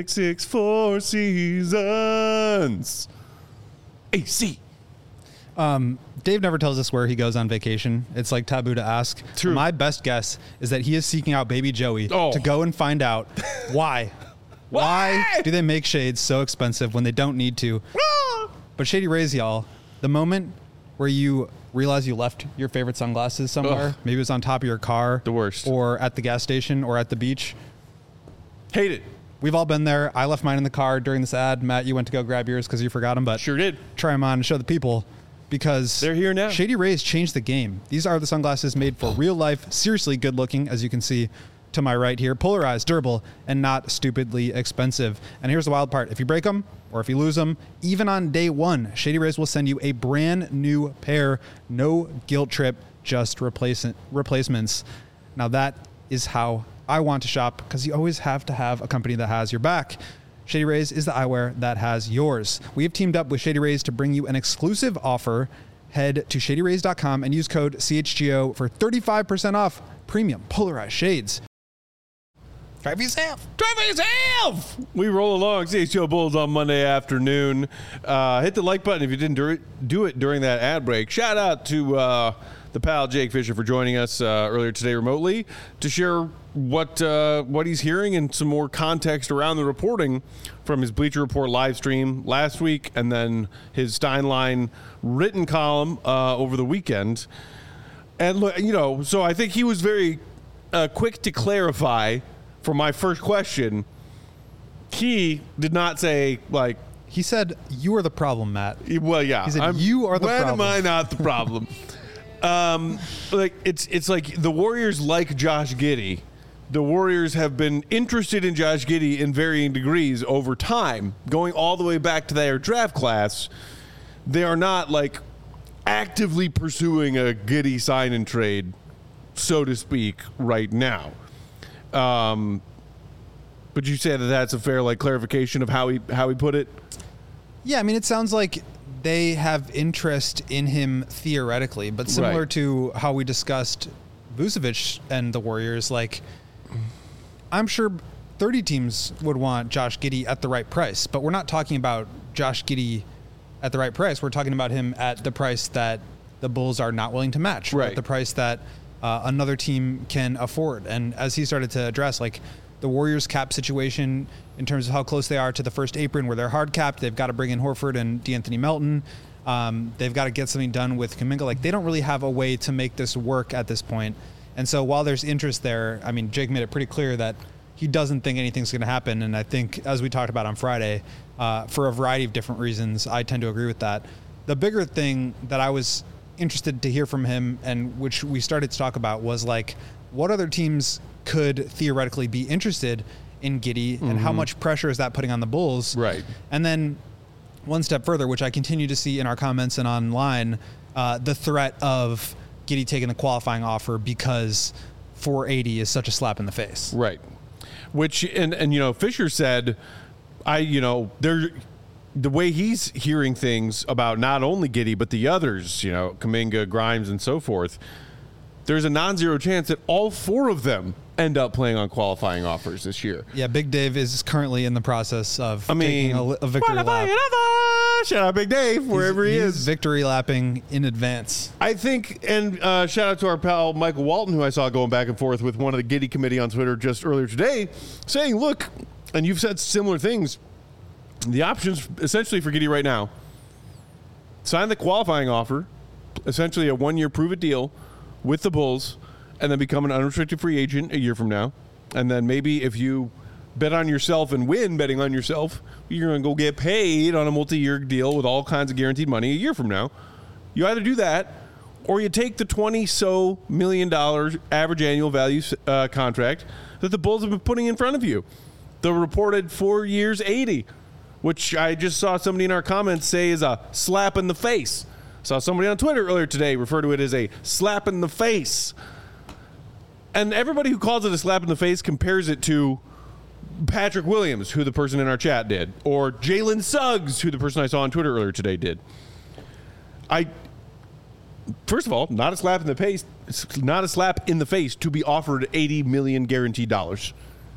A: 866-4-SEASONS. AC.
C: Dave never tells us where he goes on vacation. It's like taboo to ask.
A: True.
C: My best guess is that he is seeking out Baby Joey to go and find out why. Why do they make shades so expensive when they don't need to? But Shady Rays, y'all, the moment where you realize you left your favorite sunglasses somewhere, maybe it was on top of your car,
A: the worst,
C: or at the gas station or at the beach.
A: Hate it.
C: We've all been there. I left mine in the car during this ad. Matt, you went to go grab yours because you forgot them, but
A: sure did.
C: Try them on and show the people. Because
A: they're here now.
C: Shady Rays changed the game. These are the sunglasses made for real life, seriously good looking, as you can see to my right here. Polarized, durable, and not stupidly expensive. And here's the wild part. If you break them or if you lose them, even on day one, Shady Rays will send you a brand new pair. No guilt trip, just replacements. Now that is how I want to shop, because you always have to have a company that has your back. Shady Rays is the eyewear that has yours. We have teamed up with Shady Rays to bring you an exclusive offer. Head to shadyrays.com and use code CHGO for 35% off premium polarized shades. Drive yourself.
A: We roll along. CHGO Bulls on Monday afternoon. Hit the like button if you didn't do it during that ad break. Shout out to the pal Jake Fisher for joining us earlier today remotely to share what he's hearing and some more context around the reporting from his Bleacher Report live stream last week, and then his Steinline written column over the weekend. And look, so I think he was very quick to clarify for my first question. He did not say like.
C: He said, "You are the problem, Matt."
A: Well, yeah.
C: He said, "You are the problem."
A: When am I not the problem? It's like the Warriors like Josh Giddey. The Warriors have been interested in Josh Giddey in varying degrees over time, going all the way back to their draft class. They are not like actively pursuing a Giddey sign and trade, so to speak, right now. But you say that that's a fair clarification of how he put it.
C: Yeah, I mean, it sounds like they have interest in him theoretically, but similar to how we discussed Vucevic and the Warriors, I'm sure 30 teams would want Josh Giddey at the right price, but we're not talking about Josh Giddey at the right price. We're talking about him at the price that the Bulls are not willing to match, at the price that another team can afford. And as he started to address, the Warriors cap situation in terms of how close they are to the first apron where they're hard capped, they've got to bring in Horford and DeAnthony Melton. They've got to get something done with Kuminga. They don't really have a way to make this work at this point. And so while there's interest there, I mean, Jake made it pretty clear that he doesn't think anything's going to happen. And I think, as we talked about on Friday, for a variety of different reasons, I tend to agree with that. The bigger thing that I was interested to hear from him, and which we started to talk about, was what other teams could theoretically be interested in Giddey, and how much pressure is that putting on the Bulls?
A: Right.
C: And then one step further, which I continue to see in our comments and online, the threat of Giddey taking the qualifying offer because 480 is such a slap in the face.
A: Right. Which, and Fisher said, the way he's hearing things about not only Giddey, but the others, Kuminga, Grimes, and so forth, there's a non-zero chance that all 4 of them end up playing on qualifying offers this year.
C: Yeah, Big Dave is currently in the process of taking a victory lap.
A: Shout out Big Dave, wherever he is.
C: Victory lapping in advance.
A: I think, and shout out to our pal Michael Walton, who I saw going back and forth with one of the Giddy committee on Twitter just earlier today, saying, look, and you've said similar things, the options essentially for Giddy right now, sign the qualifying offer, essentially a 1-year prove-it deal with the Bulls, and then become an unrestricted free agent a year from now. And then maybe if you bet on yourself and win betting on yourself, you're going to go get paid on a multi-year deal with all kinds of guaranteed money a year from now. You either do that, or you take the $20 million average annual value contract that the Bulls have been putting in front of you. The reported 4 years, $80, which I just saw somebody in our comments say is a slap in the face. Saw somebody on Twitter earlier today refer to it as a slap in the face. And everybody who calls it a slap in the face compares it to Patrick Williams, who the person in our chat did, or Jalen Suggs, who the person I saw on Twitter earlier today did. First of all, not a slap in the face. It's not a slap in the face to be offered $80 million guaranteed dollars.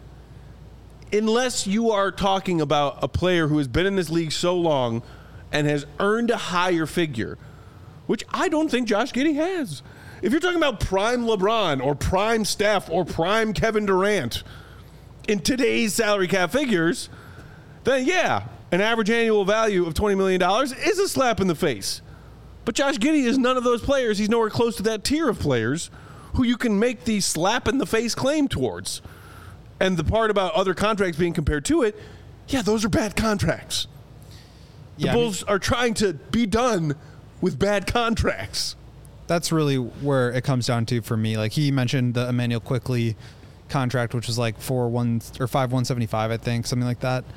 A: Unless you are talking about a player who has been in this league so long and has earned a higher figure, which I don't think Josh Giddey has. If you're talking about prime LeBron or prime Steph or prime Kevin Durant in today's salary cap figures, then yeah, an average annual value of $20 million is a slap in the face. But Josh Giddey is none of those players. He's nowhere close to that tier of players who you can make the slap in the face claim towards. And the part about other contracts being compared to it, yeah, those are bad contracts. The Bulls are trying to be done with bad contracts.
C: That's really where it comes down to for me. Like he mentioned the Emmanuel Quickley contract, which was like 5,175, I think, something like that.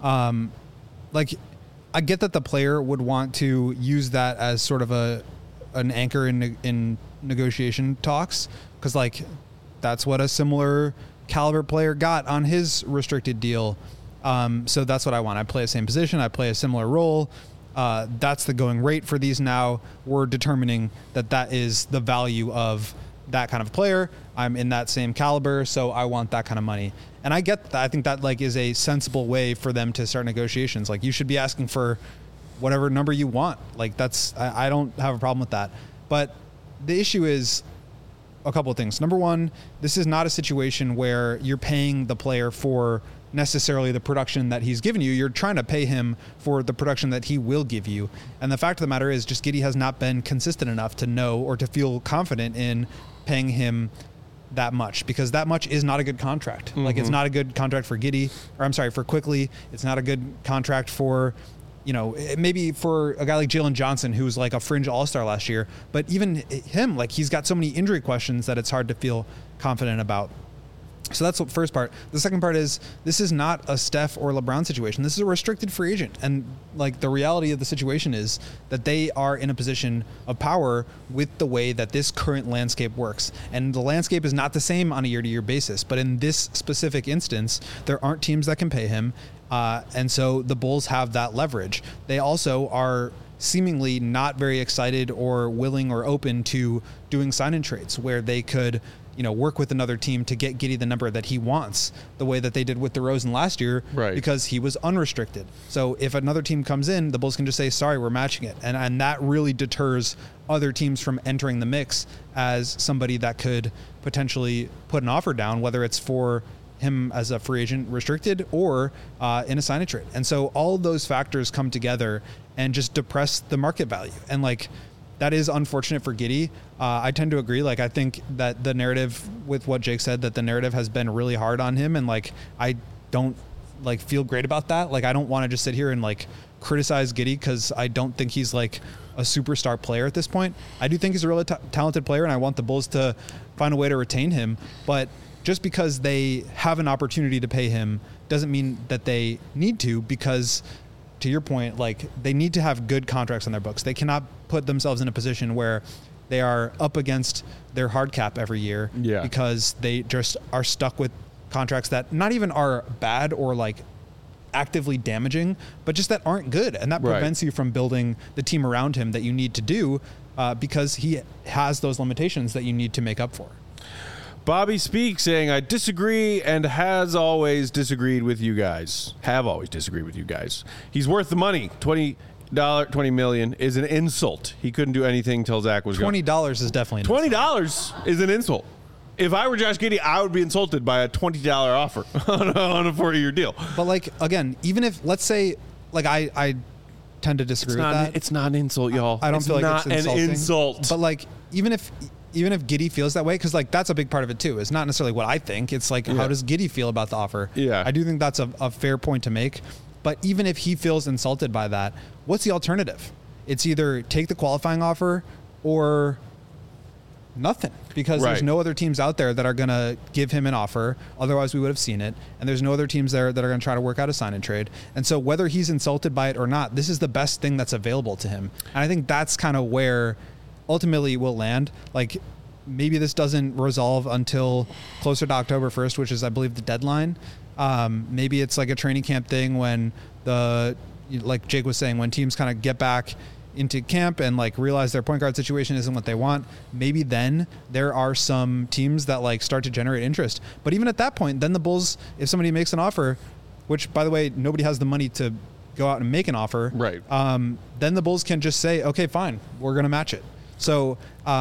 C: Like I get that the player would want to use that as sort of an anchor in negotiation talks, because like that's what a similar caliber player got on his restricted deal. So that's what I want. I play the same position. I play a similar role. That's the going rate for these now. We're determining that is the value of that kind of player. I'm in that same caliber, so I want that kind of money. And I get that. I think that like is a sensible way for them to start negotiations. Like you should be asking for whatever number you want. Like I don't have a problem with that. But the issue is a couple of things. Number one, this is not a situation where you're paying the player for necessarily the production that he's given you. You're trying to pay him for the production that he will give you. And the fact of the matter is just Giddey has not been consistent enough to know or to feel confident in paying him that much, because that much is not a good contract. Mm-hmm. Like it's not a good contract for Giddey, or I'm sorry, for Quickley. It's not a good contract for, maybe for a guy like Jalen Johnson, who was like a fringe all-star last year, but even him, like he's got so many injury questions that it's hard to feel confident about. So that's the first part. The second part is this is not a Steph or LeBron situation. This is a restricted free agent. And like the reality of the situation is that they are in a position of power with the way that this current landscape works. And the landscape is not the same on a year-to-year basis. But in this specific instance, there aren't teams that can pay him. And so the Bulls have that leverage. They also are seemingly not very excited or willing or open to doing sign-in trades where they could work with another team to get Giddey the number that he wants, the way that they did with DeRozan last year, right, because he was unrestricted. So if another team comes in, the Bulls can just say, sorry, we're matching it. And that really deters other teams from entering the mix as somebody that could potentially put an offer down, whether it's for him as a free agent restricted or in a sign-in trade. And so all of those factors come together and just depress the market value. And like, that is unfortunate for Giddey. I tend to agree. Like, I think that the narrative with what Jake said, that the narrative has been really hard on him. And like, I don't like feel great about that. Like, I don't want to just sit here and like criticize Giddey because I don't think he's like a superstar player at this point. I do think he's a really talented player, and I want the Bulls to find a way to retain him. But just because they have an opportunity to pay him doesn't mean that they need to, because to your point, like they need to have good contracts on their books. They cannot put themselves in a position where they are up against their hard cap every year because they just are stuck with contracts that not even are bad or like actively damaging, but just that aren't good. And that prevents you from building the team around him that you need to do because he has those limitations that you need to make up for.
A: Bobby Speak saying, I disagree and has always disagreed with you guys. Have always disagreed with you guys. He's worth the money. $20 million is an insult. He couldn't do anything till Zach was gone.
C: $20 is definitely an
A: $20 is an insult. If I were Josh Giddey, I would be insulted by a $20 offer on a 4-year deal.
C: But like, again, even if, let's say, like I tend to disagree with that.
A: It's not an insult, y'all.
C: I don't feel like it's insulting.
A: An insult.
C: But like, even if Giddey feels that way, because like that's a big part of it too. It's not necessarily what I think. It's like, how does Giddey feel about the offer?
A: Yeah.
C: I do think that's a fair point to make. But even if he feels insulted by that, what's the alternative? It's either take the qualifying offer or nothing, because there's no other teams out there that are going to give him an offer. Otherwise we would have seen it. And there's no other teams there that are going to try to work out a sign and trade. And so whether he's insulted by it or not, this is the best thing that's available to him. And I think that's kind of where ultimately we'll land. Like, maybe this doesn't resolve until closer to October 1st, which is, I believe, the deadline. Maybe it's like a training camp thing when like Jake was saying, when teams kind of get back into camp and like realize their point guard situation isn't what they want, maybe then there are some teams that like start to generate interest. But even at that point, then the Bulls, if somebody makes an offer, which by the way, nobody has the money to go out and make an offer,
A: right?
C: Then the Bulls can just say, okay, fine, we're going to match it. So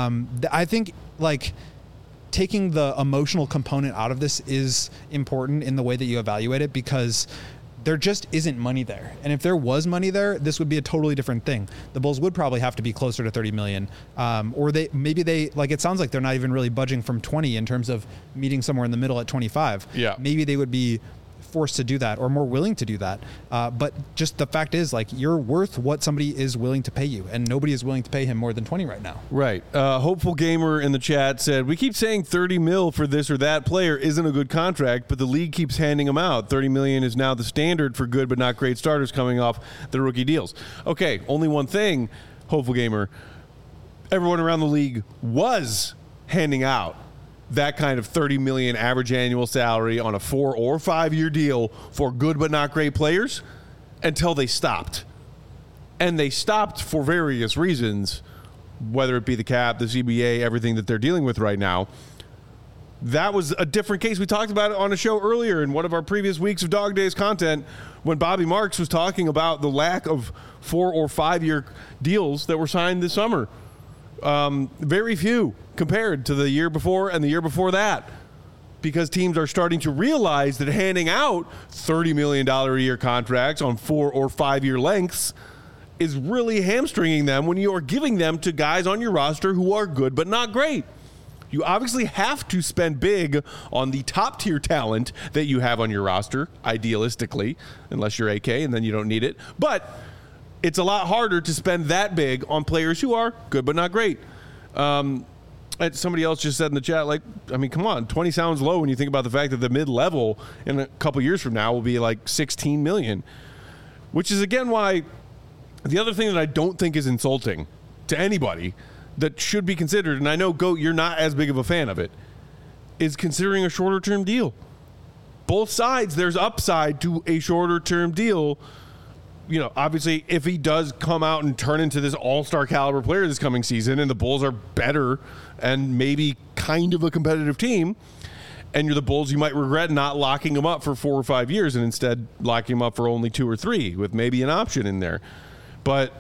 C: I think like taking the emotional component out of this is important in the way that you evaluate it, because there just isn't money there. And if there was money there, this would be a totally different thing. The Bulls would probably have to be closer to 30 million. Or maybe they, like, it sounds like they're not even really budging from 20 in terms of meeting somewhere in the middle at 25.
A: Yeah.
C: Maybe they would be forced to do that or more willing to do that. But just the fact is, like, you're worth what somebody is willing to pay you, and nobody is willing to pay him more than 20 right now.
A: Right. Hopeful Gamer in the chat said, we keep saying 30 mil for this or that player isn't a good contract, but the league keeps handing them out. 30 million is now the standard for good but not great starters coming off the rookie deals. Okay, only one thing, Hopeful Gamer. Everyone around the league was handing out that kind of 30 million average annual salary on a 4 or 5 year deal for good but not great players until they stopped. And they stopped for various reasons, whether it be the cap, the CBA, everything that they're dealing with right now. That was a different case. We talked about it on a show earlier in one of our previous weeks of Dog Days content when Bobby Marks was talking about the lack of 4 or 5 year deals that were signed this summer. Very few compared to the year before and the year before that, because teams are starting to realize that handing out $30 million a year contracts on 4 or 5 year lengths is really hamstringing them when you are giving them to guys on your roster who are good but not great. You obviously have to spend big on the top tier talent that you have on your roster, idealistically, unless you're AK and then you don't need it. But it's a lot harder to spend that big on players who are good but not great. And somebody else just said in the chat, like, I mean, come on, 20 sounds low when you think about the fact that the mid-level in a couple years from now will be like 16 million, which is, again, why the other thing that I don't think is insulting to anybody that should be considered, and I know, Goat, you're not as big of a fan of it, is considering a shorter-term deal. Both sides, there's upside to a shorter-term deal. You know, obviously, if he does come out and turn into this all-star caliber player this coming season and the Bulls are better and maybe kind of a competitive team, and you're the Bulls, you might regret not locking him up for 4 or 5 years and instead locking him up for only 2 or 3 with maybe an option in there. But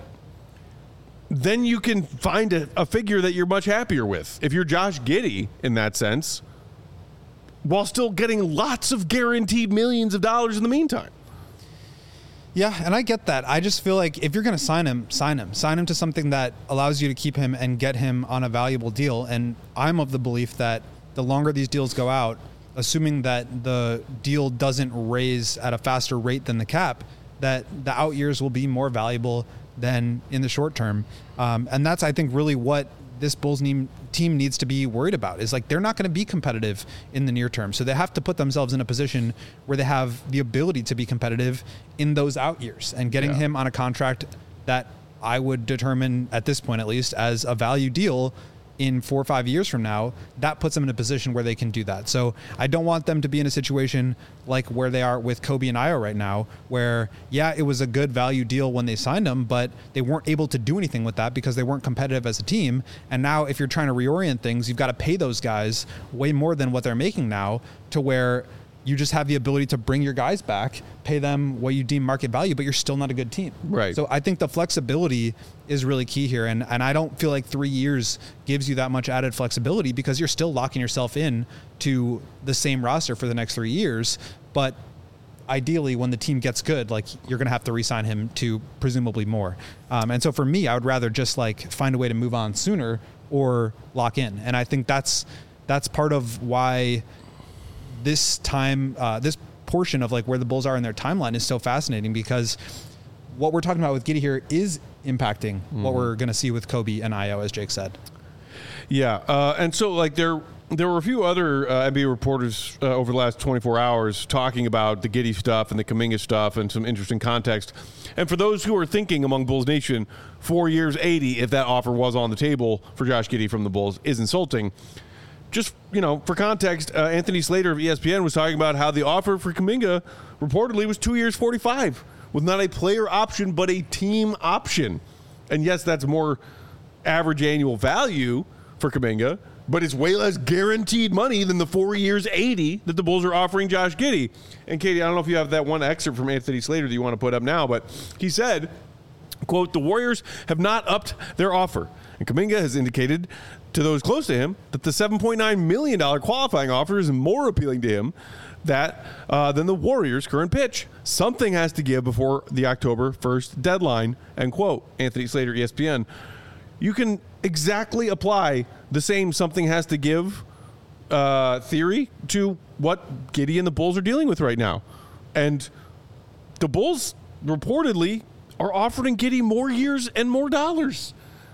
A: then you can find a figure that you're much happier with. If you're Josh Giddey in that sense, while still getting lots of guaranteed millions of dollars in the meantime.
C: Yeah, and I get that. I just feel like if you're going to sign him. Sign him to something that allows you to keep him and get him on a valuable deal. And I'm of the belief that the longer these deals go out, assuming that the deal doesn't raise at a faster rate than the cap, that the out years will be more valuable than in the short term. And that's, I think, really what this Bulls team needs to be worried about, is like they're not going to be competitive in the near term. So they have to put themselves in a position where they have the ability to be competitive in those out years, and getting him on a contract that I would determine at this point, at least, as a value deal in 4 or 5 years from now, that puts them in a position where they can do that. So I don't want them to be in a situation like where they are with Kobe and Ayo right now, where, yeah, it was a good value deal when they signed them, but they weren't able to do anything with that because they weren't competitive as a team. And now if you're trying to reorient things, you've got to pay those guys way more than what they're making now, to where you just have the ability to bring your guys back, pay them what you deem market value, but you're still not a good team.
A: Right.
C: So I think the flexibility is really key here. And I don't feel like 3 years gives you that much added flexibility, because you're still locking yourself in to the same roster for the next 3 years. But ideally, when the team gets good, like, you're going to have to re-sign him to presumably more. And so for me, I would rather just like find a way to move on sooner or lock in. And I think that's part of why this time, this portion of like where the Bulls are in their timeline is so fascinating, because what we're talking about with Giddey here is impacting what we're going to see with Kobe and Ayo, as Jake said.
A: Yeah. And so like there were a few other NBA reporters over the last 24 hours talking about the Giddey stuff and the Kuminga stuff and some interesting context. And for those who are thinking among Bulls Nation, 4 years, 80, if that offer was on the table for Josh Giddey from the Bulls, is insulting. Just, for context, Anthony Slater of ESPN was talking about how the offer for Kuminga reportedly was 2 years, 45, with not a player option, but a team option. And yes, that's more average annual value for Kuminga, but it's way less guaranteed money than the 4 years, 80 that the Bulls are offering Josh Giddey. And Katie, I don't know if you have that one excerpt from Anthony Slater that you want to put up now, but he said, quote, "The Warriors have not upped their offer. And Kuminga has indicated to those close to him that the $7.9 million qualifying offer is more appealing to him than the Warriors' current pitch. Something has to give before the October 1st deadline," end quote. Anthony Slater, ESPN. You can exactly apply the same something has to give theory to what Giddey and the Bulls are dealing with right now. And the Bulls reportedly are offering Giddey more years and more dollars.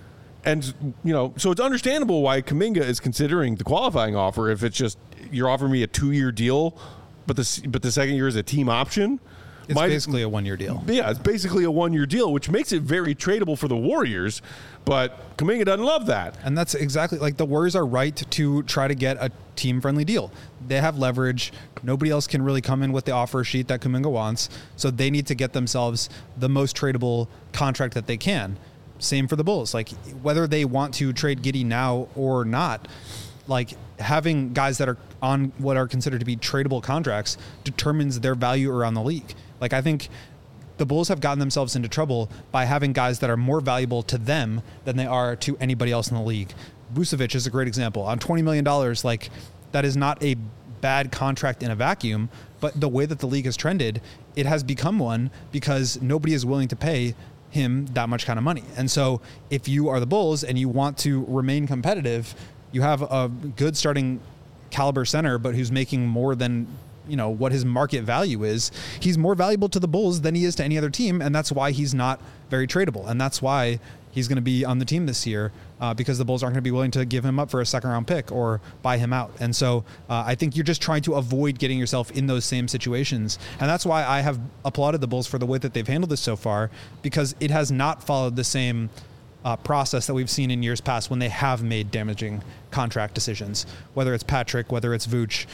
A: And, so it's understandable why Kuminga is considering the qualifying offer. If it's just, you're offering me a 2-year deal, but the second year is a team option.
C: It's basically a 1-year deal.
A: Yeah, it's basically a 1-year deal, which makes it very tradable for the Warriors. But Kuminga doesn't love that.
C: And that's exactly, like, the Warriors are right to try to get a team-friendly deal. They have leverage. Nobody else can really come in with the offer sheet that Kuminga wants. So they need to get themselves the most tradable contract that they can. Same for the Bulls. Like, whether they want to trade Giddey now or not, like, having guys that are on what are considered to be tradable contracts determines their value around the league. Like, I think the Bulls have gotten themselves into trouble by having guys that are more valuable to them than they are to anybody else in the league. Vucevic is a great example. On $20 million, like, that is not a bad contract in a vacuum, but the way that the league has trended, it has become one because nobody is willing to pay him that much kind of money. And so if you are the Bulls and you want to remain competitive, you have a good starting caliber center, but who's making more than what his market value is. He's more valuable to the Bulls than he is to any other team, and that's why he's not very tradable. And that's why he's going to be on the team this year, because the Bulls aren't going to be willing to give him up for a second-round pick or buy him out. And so I think you're just trying to avoid getting yourself in those same situations. And that's why I have applauded the Bulls for the way that they've handled this so far, because it has not followed the same process that we've seen in years past when they have made damaging contract decisions, whether it's Patrick, whether it's Vooch,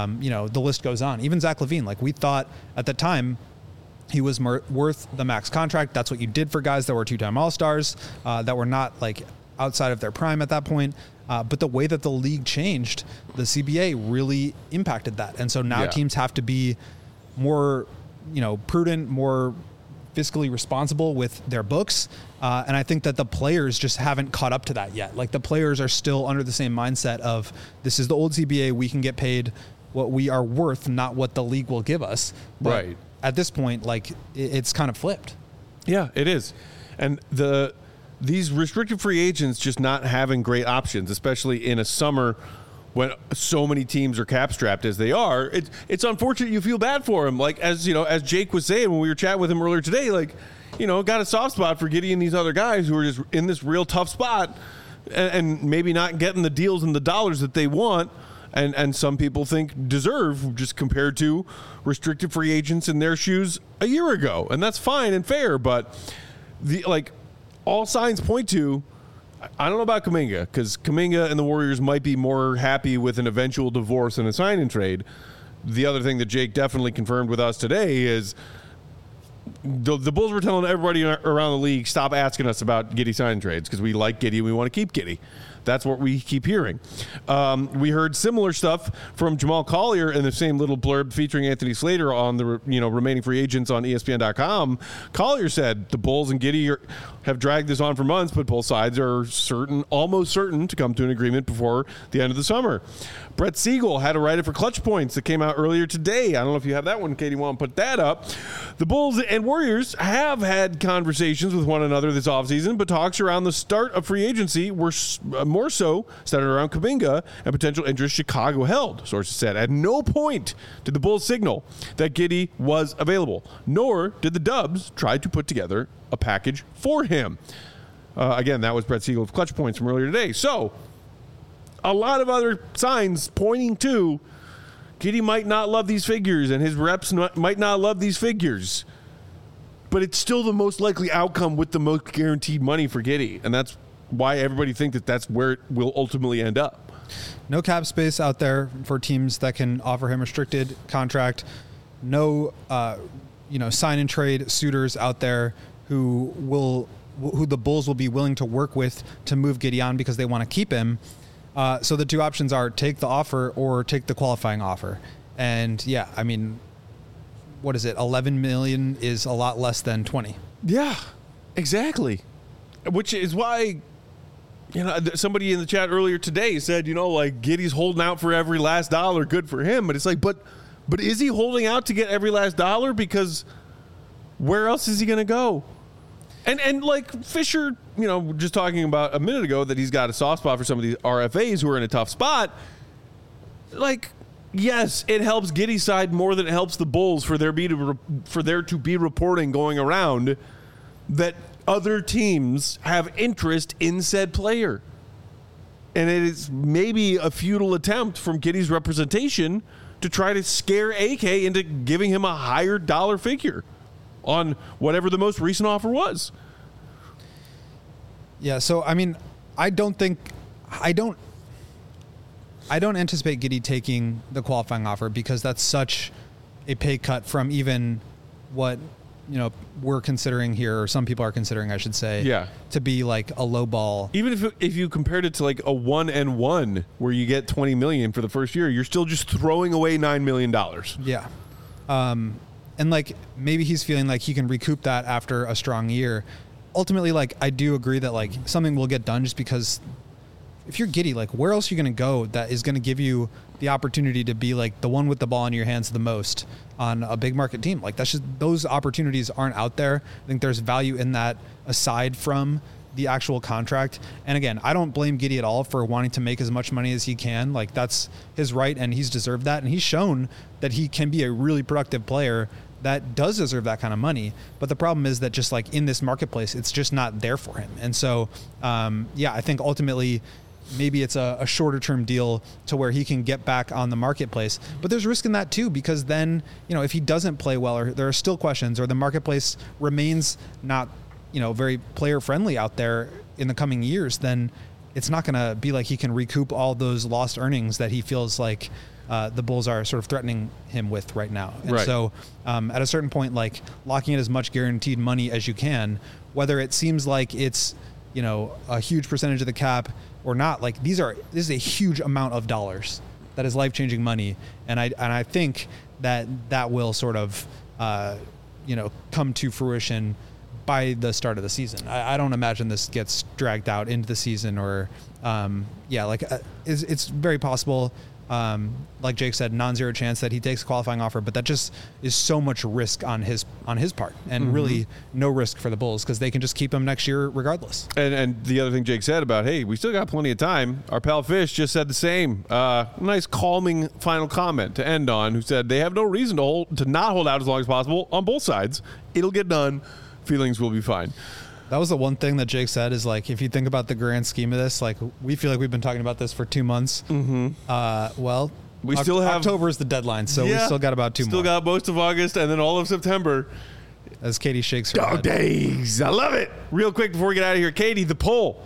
C: the list goes on. Even Zach LaVine, like, we thought at the time he was worth the max contract. That's what you did for guys that were 2-time All-Stars, that were not like outside of their prime at that point. But the way that the league changed, the CBA really impacted that. And so now teams have to be more, prudent, more fiscally responsible with their books. And I think that the players just haven't caught up to that yet. Like, the players are still under the same mindset of, this is the old CBA. We can get paid what we are worth, not what the league will give us. But
A: right.
C: At this point, like, it's kind of flipped.
A: Yeah, it is. And these restricted free agents just not having great options, especially in a summer when so many teams are cap strapped as they are, it's unfortunate. You feel bad for him. Like, as Jake was saying when we were chatting with him earlier today, like, got a soft spot for Giddey and these other guys who are just in this real tough spot and maybe not getting the deals and the dollars that they want. And some people think deserve, just compared to restricted free agents in their shoes a year ago. And that's fine and fair, but all signs point to I don't know about Kuminga, because Kuminga and the Warriors might be more happy with an eventual divorce and a sign and trade. The other thing that Jake definitely confirmed with us today is the Bulls were telling everybody around the league, stop asking us about Giddey sign and trades, because we like Giddey and we want to keep Giddey. That's what we keep hearing. We heard similar stuff from Jamal Collier in the same little blurb featuring Anthony Slater on the remaining free agents on ESPN.com. Collier said the Bulls and Giddey have dragged this on for months, but both sides are almost certain to come to an agreement before the end of the summer. Brett Siegel had a write-up for Clutch Points that came out earlier today. I don't know if you have that one, Katie. Want to put that up? The Bulls and Warriors have had conversations with one another this offseason, but talks around the start of free agency were more so centered around Kuminga and potential interest Chicago held, sources said. At no point did the Bulls signal that Giddey was available, nor did the Dubs try to put together a package for him. Again, that was Brett Siegel of Clutch Points from earlier today. So, a lot of other signs pointing to Giddey might not love these figures and his reps might not love these figures. But it's still the most likely outcome with the most guaranteed money for Giddey. And that's why everybody thinks that that's where it will ultimately end up.
C: No cap space out there for teams that can offer him restricted contract. No, sign and trade suitors out there who the Bulls will be willing to work with to move Giddey on because they want to keep him. So the two options are take the offer or take the qualifying offer. And yeah, I mean, what is it? 11 million is a lot less than 20.
A: Yeah, exactly. Which is why, somebody in the chat earlier today said, Giddey's holding out for every last dollar. Good for him. But it's like, but is he holding out to get every last dollar? Because where else is he going to go? And like Fisher, just talking about a minute ago that he's got a soft spot for some of these RFAs who are in a tough spot. Like, yes, it helps Giddey's side more than it helps the Bulls for there to be reporting going around that other teams have interest in said player. And it is maybe a futile attempt from Giddey's representation to try to scare AK into giving him a higher dollar figure on whatever the most recent offer was.
C: Yeah, so I mean, I don't anticipate Giddey taking the qualifying offer because that's such a pay cut from even what we're considering here, or some people are considering, I should say, to be like a low ball.
A: Even if you compared it to like a 1-and-1 where you get $20 million for the first year, you're still just throwing away $9 million.
C: Yeah. And like maybe he's feeling like he can recoup that after a strong year. Ultimately, like I do agree that like something will get done just because if you're Giddey, like where else are you going to go that is going to give you the opportunity to be like the one with the ball in your hands the most on a big market team? Like that's just, those opportunities aren't out there. I think there's value in that aside from the actual contract. And again, I don't blame Giddey at all for wanting to make as much money as he can. Like that's his right and he's deserved that. And he's shown that he can be a really productive player that does deserve that kind of money. But the problem is that just like in this marketplace, it's just not there for him. And so, I think ultimately maybe it's a shorter term deal to where he can get back on the marketplace. But there's risk in that too, because then, if he doesn't play well, or there are still questions, or the marketplace remains not, very player friendly out there in the coming years, then it's not going to be like he can recoup all those lost earnings that he feels like the Bulls are sort of threatening him with right now. And so at a certain point, like locking in as much guaranteed money as you can, whether it seems like it's, a huge percentage of the cap or not, like this is a huge amount of dollars that is life-changing money. And I think that will sort of, come to fruition by the start of the season. I don't imagine this gets dragged out into the season or, it's very possible. Like Jake said, non-zero chance that he takes a qualifying offer, but that just is so much risk on his part, and really no risk for the Bulls because they can just keep him next year regardless.
A: And the other thing Jake said about, hey, we still got plenty of time. Our pal Fish just said the same. Nice calming final comment to end on, who said they have no reason to not hold out as long as possible on both sides. It'll get done. Feelings will be fine.
C: That was the one thing that Jake said is like, if you think about the grand scheme of this, like we feel like we've been talking about this for 2 months. We still have October is the deadline. So we still got about 2 more.
A: Still got most of August and then all of September.
C: As Katie shakes her
A: head. Days. I love it. Real quick before we get out of here, Katie, the poll.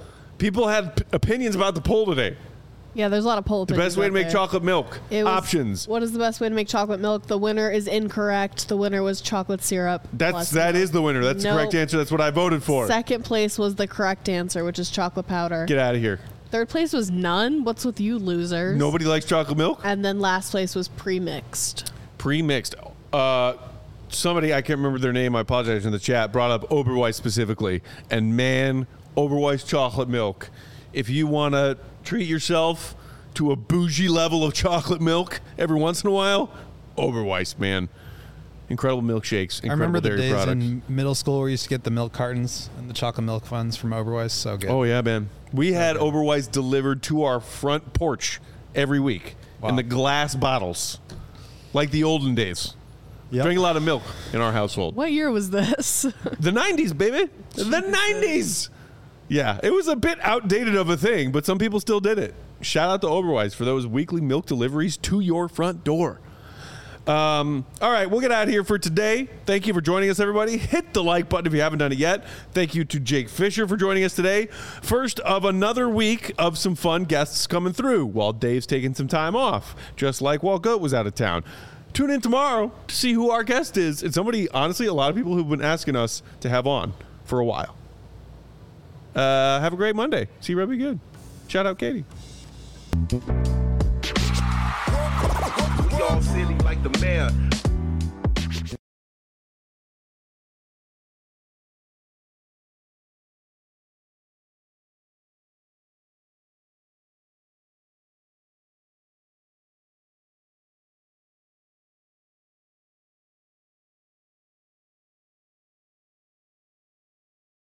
A: People had opinions about the poll today.
B: Yeah, there's a lot of poll
A: The
B: opinions
A: best way to
B: out
A: make
B: there.
A: chocolate milk.
B: It was,
A: Options.
B: What is the best way to make chocolate milk? The winner is incorrect. The winner was chocolate syrup.
A: That is the winner. That's the correct answer. That's what I voted for.
B: Second place was the correct answer, which is chocolate powder.
A: Get out of here.
B: Third place was none. What's with you losers?
A: Nobody likes chocolate milk?
B: And then last place was pre-mixed.
A: Pre-mixed. Somebody, I can't remember their name, I apologize, in the chat, brought up Oberweis specifically. And man, Oberweis chocolate milk. If you want to treat yourself to a bougie level of chocolate milk every once in a while, Oberweis, man. Incredible milkshakes, incredible
C: I remember the
A: dairy
C: days
A: products.
C: in middle school where we used to get the milk cartons and the chocolate milk ones from Oberweis. So good.
A: Oh, yeah, man. We had Oberweis delivered to our front porch every week in the glass bottles, like the olden days.
C: Yep.
A: Drink a lot of milk in our household.
B: What year was this?
A: The 90s, baby. The 90s. Yeah, it was a bit outdated of a thing, but some people still did it. Shout out to Oberweis for those weekly milk deliveries to your front door. All right, we'll get out of here for today. Thank you for joining us, everybody. Hit the like button if you haven't done it yet. Thank you to Jake Fisher for joining us today. First of another week of some fun guests coming through while Dave's taking some time off, just like Walt Goat was out of town. Tune in tomorrow to see who our guest is. It's somebody, honestly, a lot of people who've been asking us to have on for a while. Have a great Monday. See you real good. Shout out Katie.
F: We all silly like the mayor.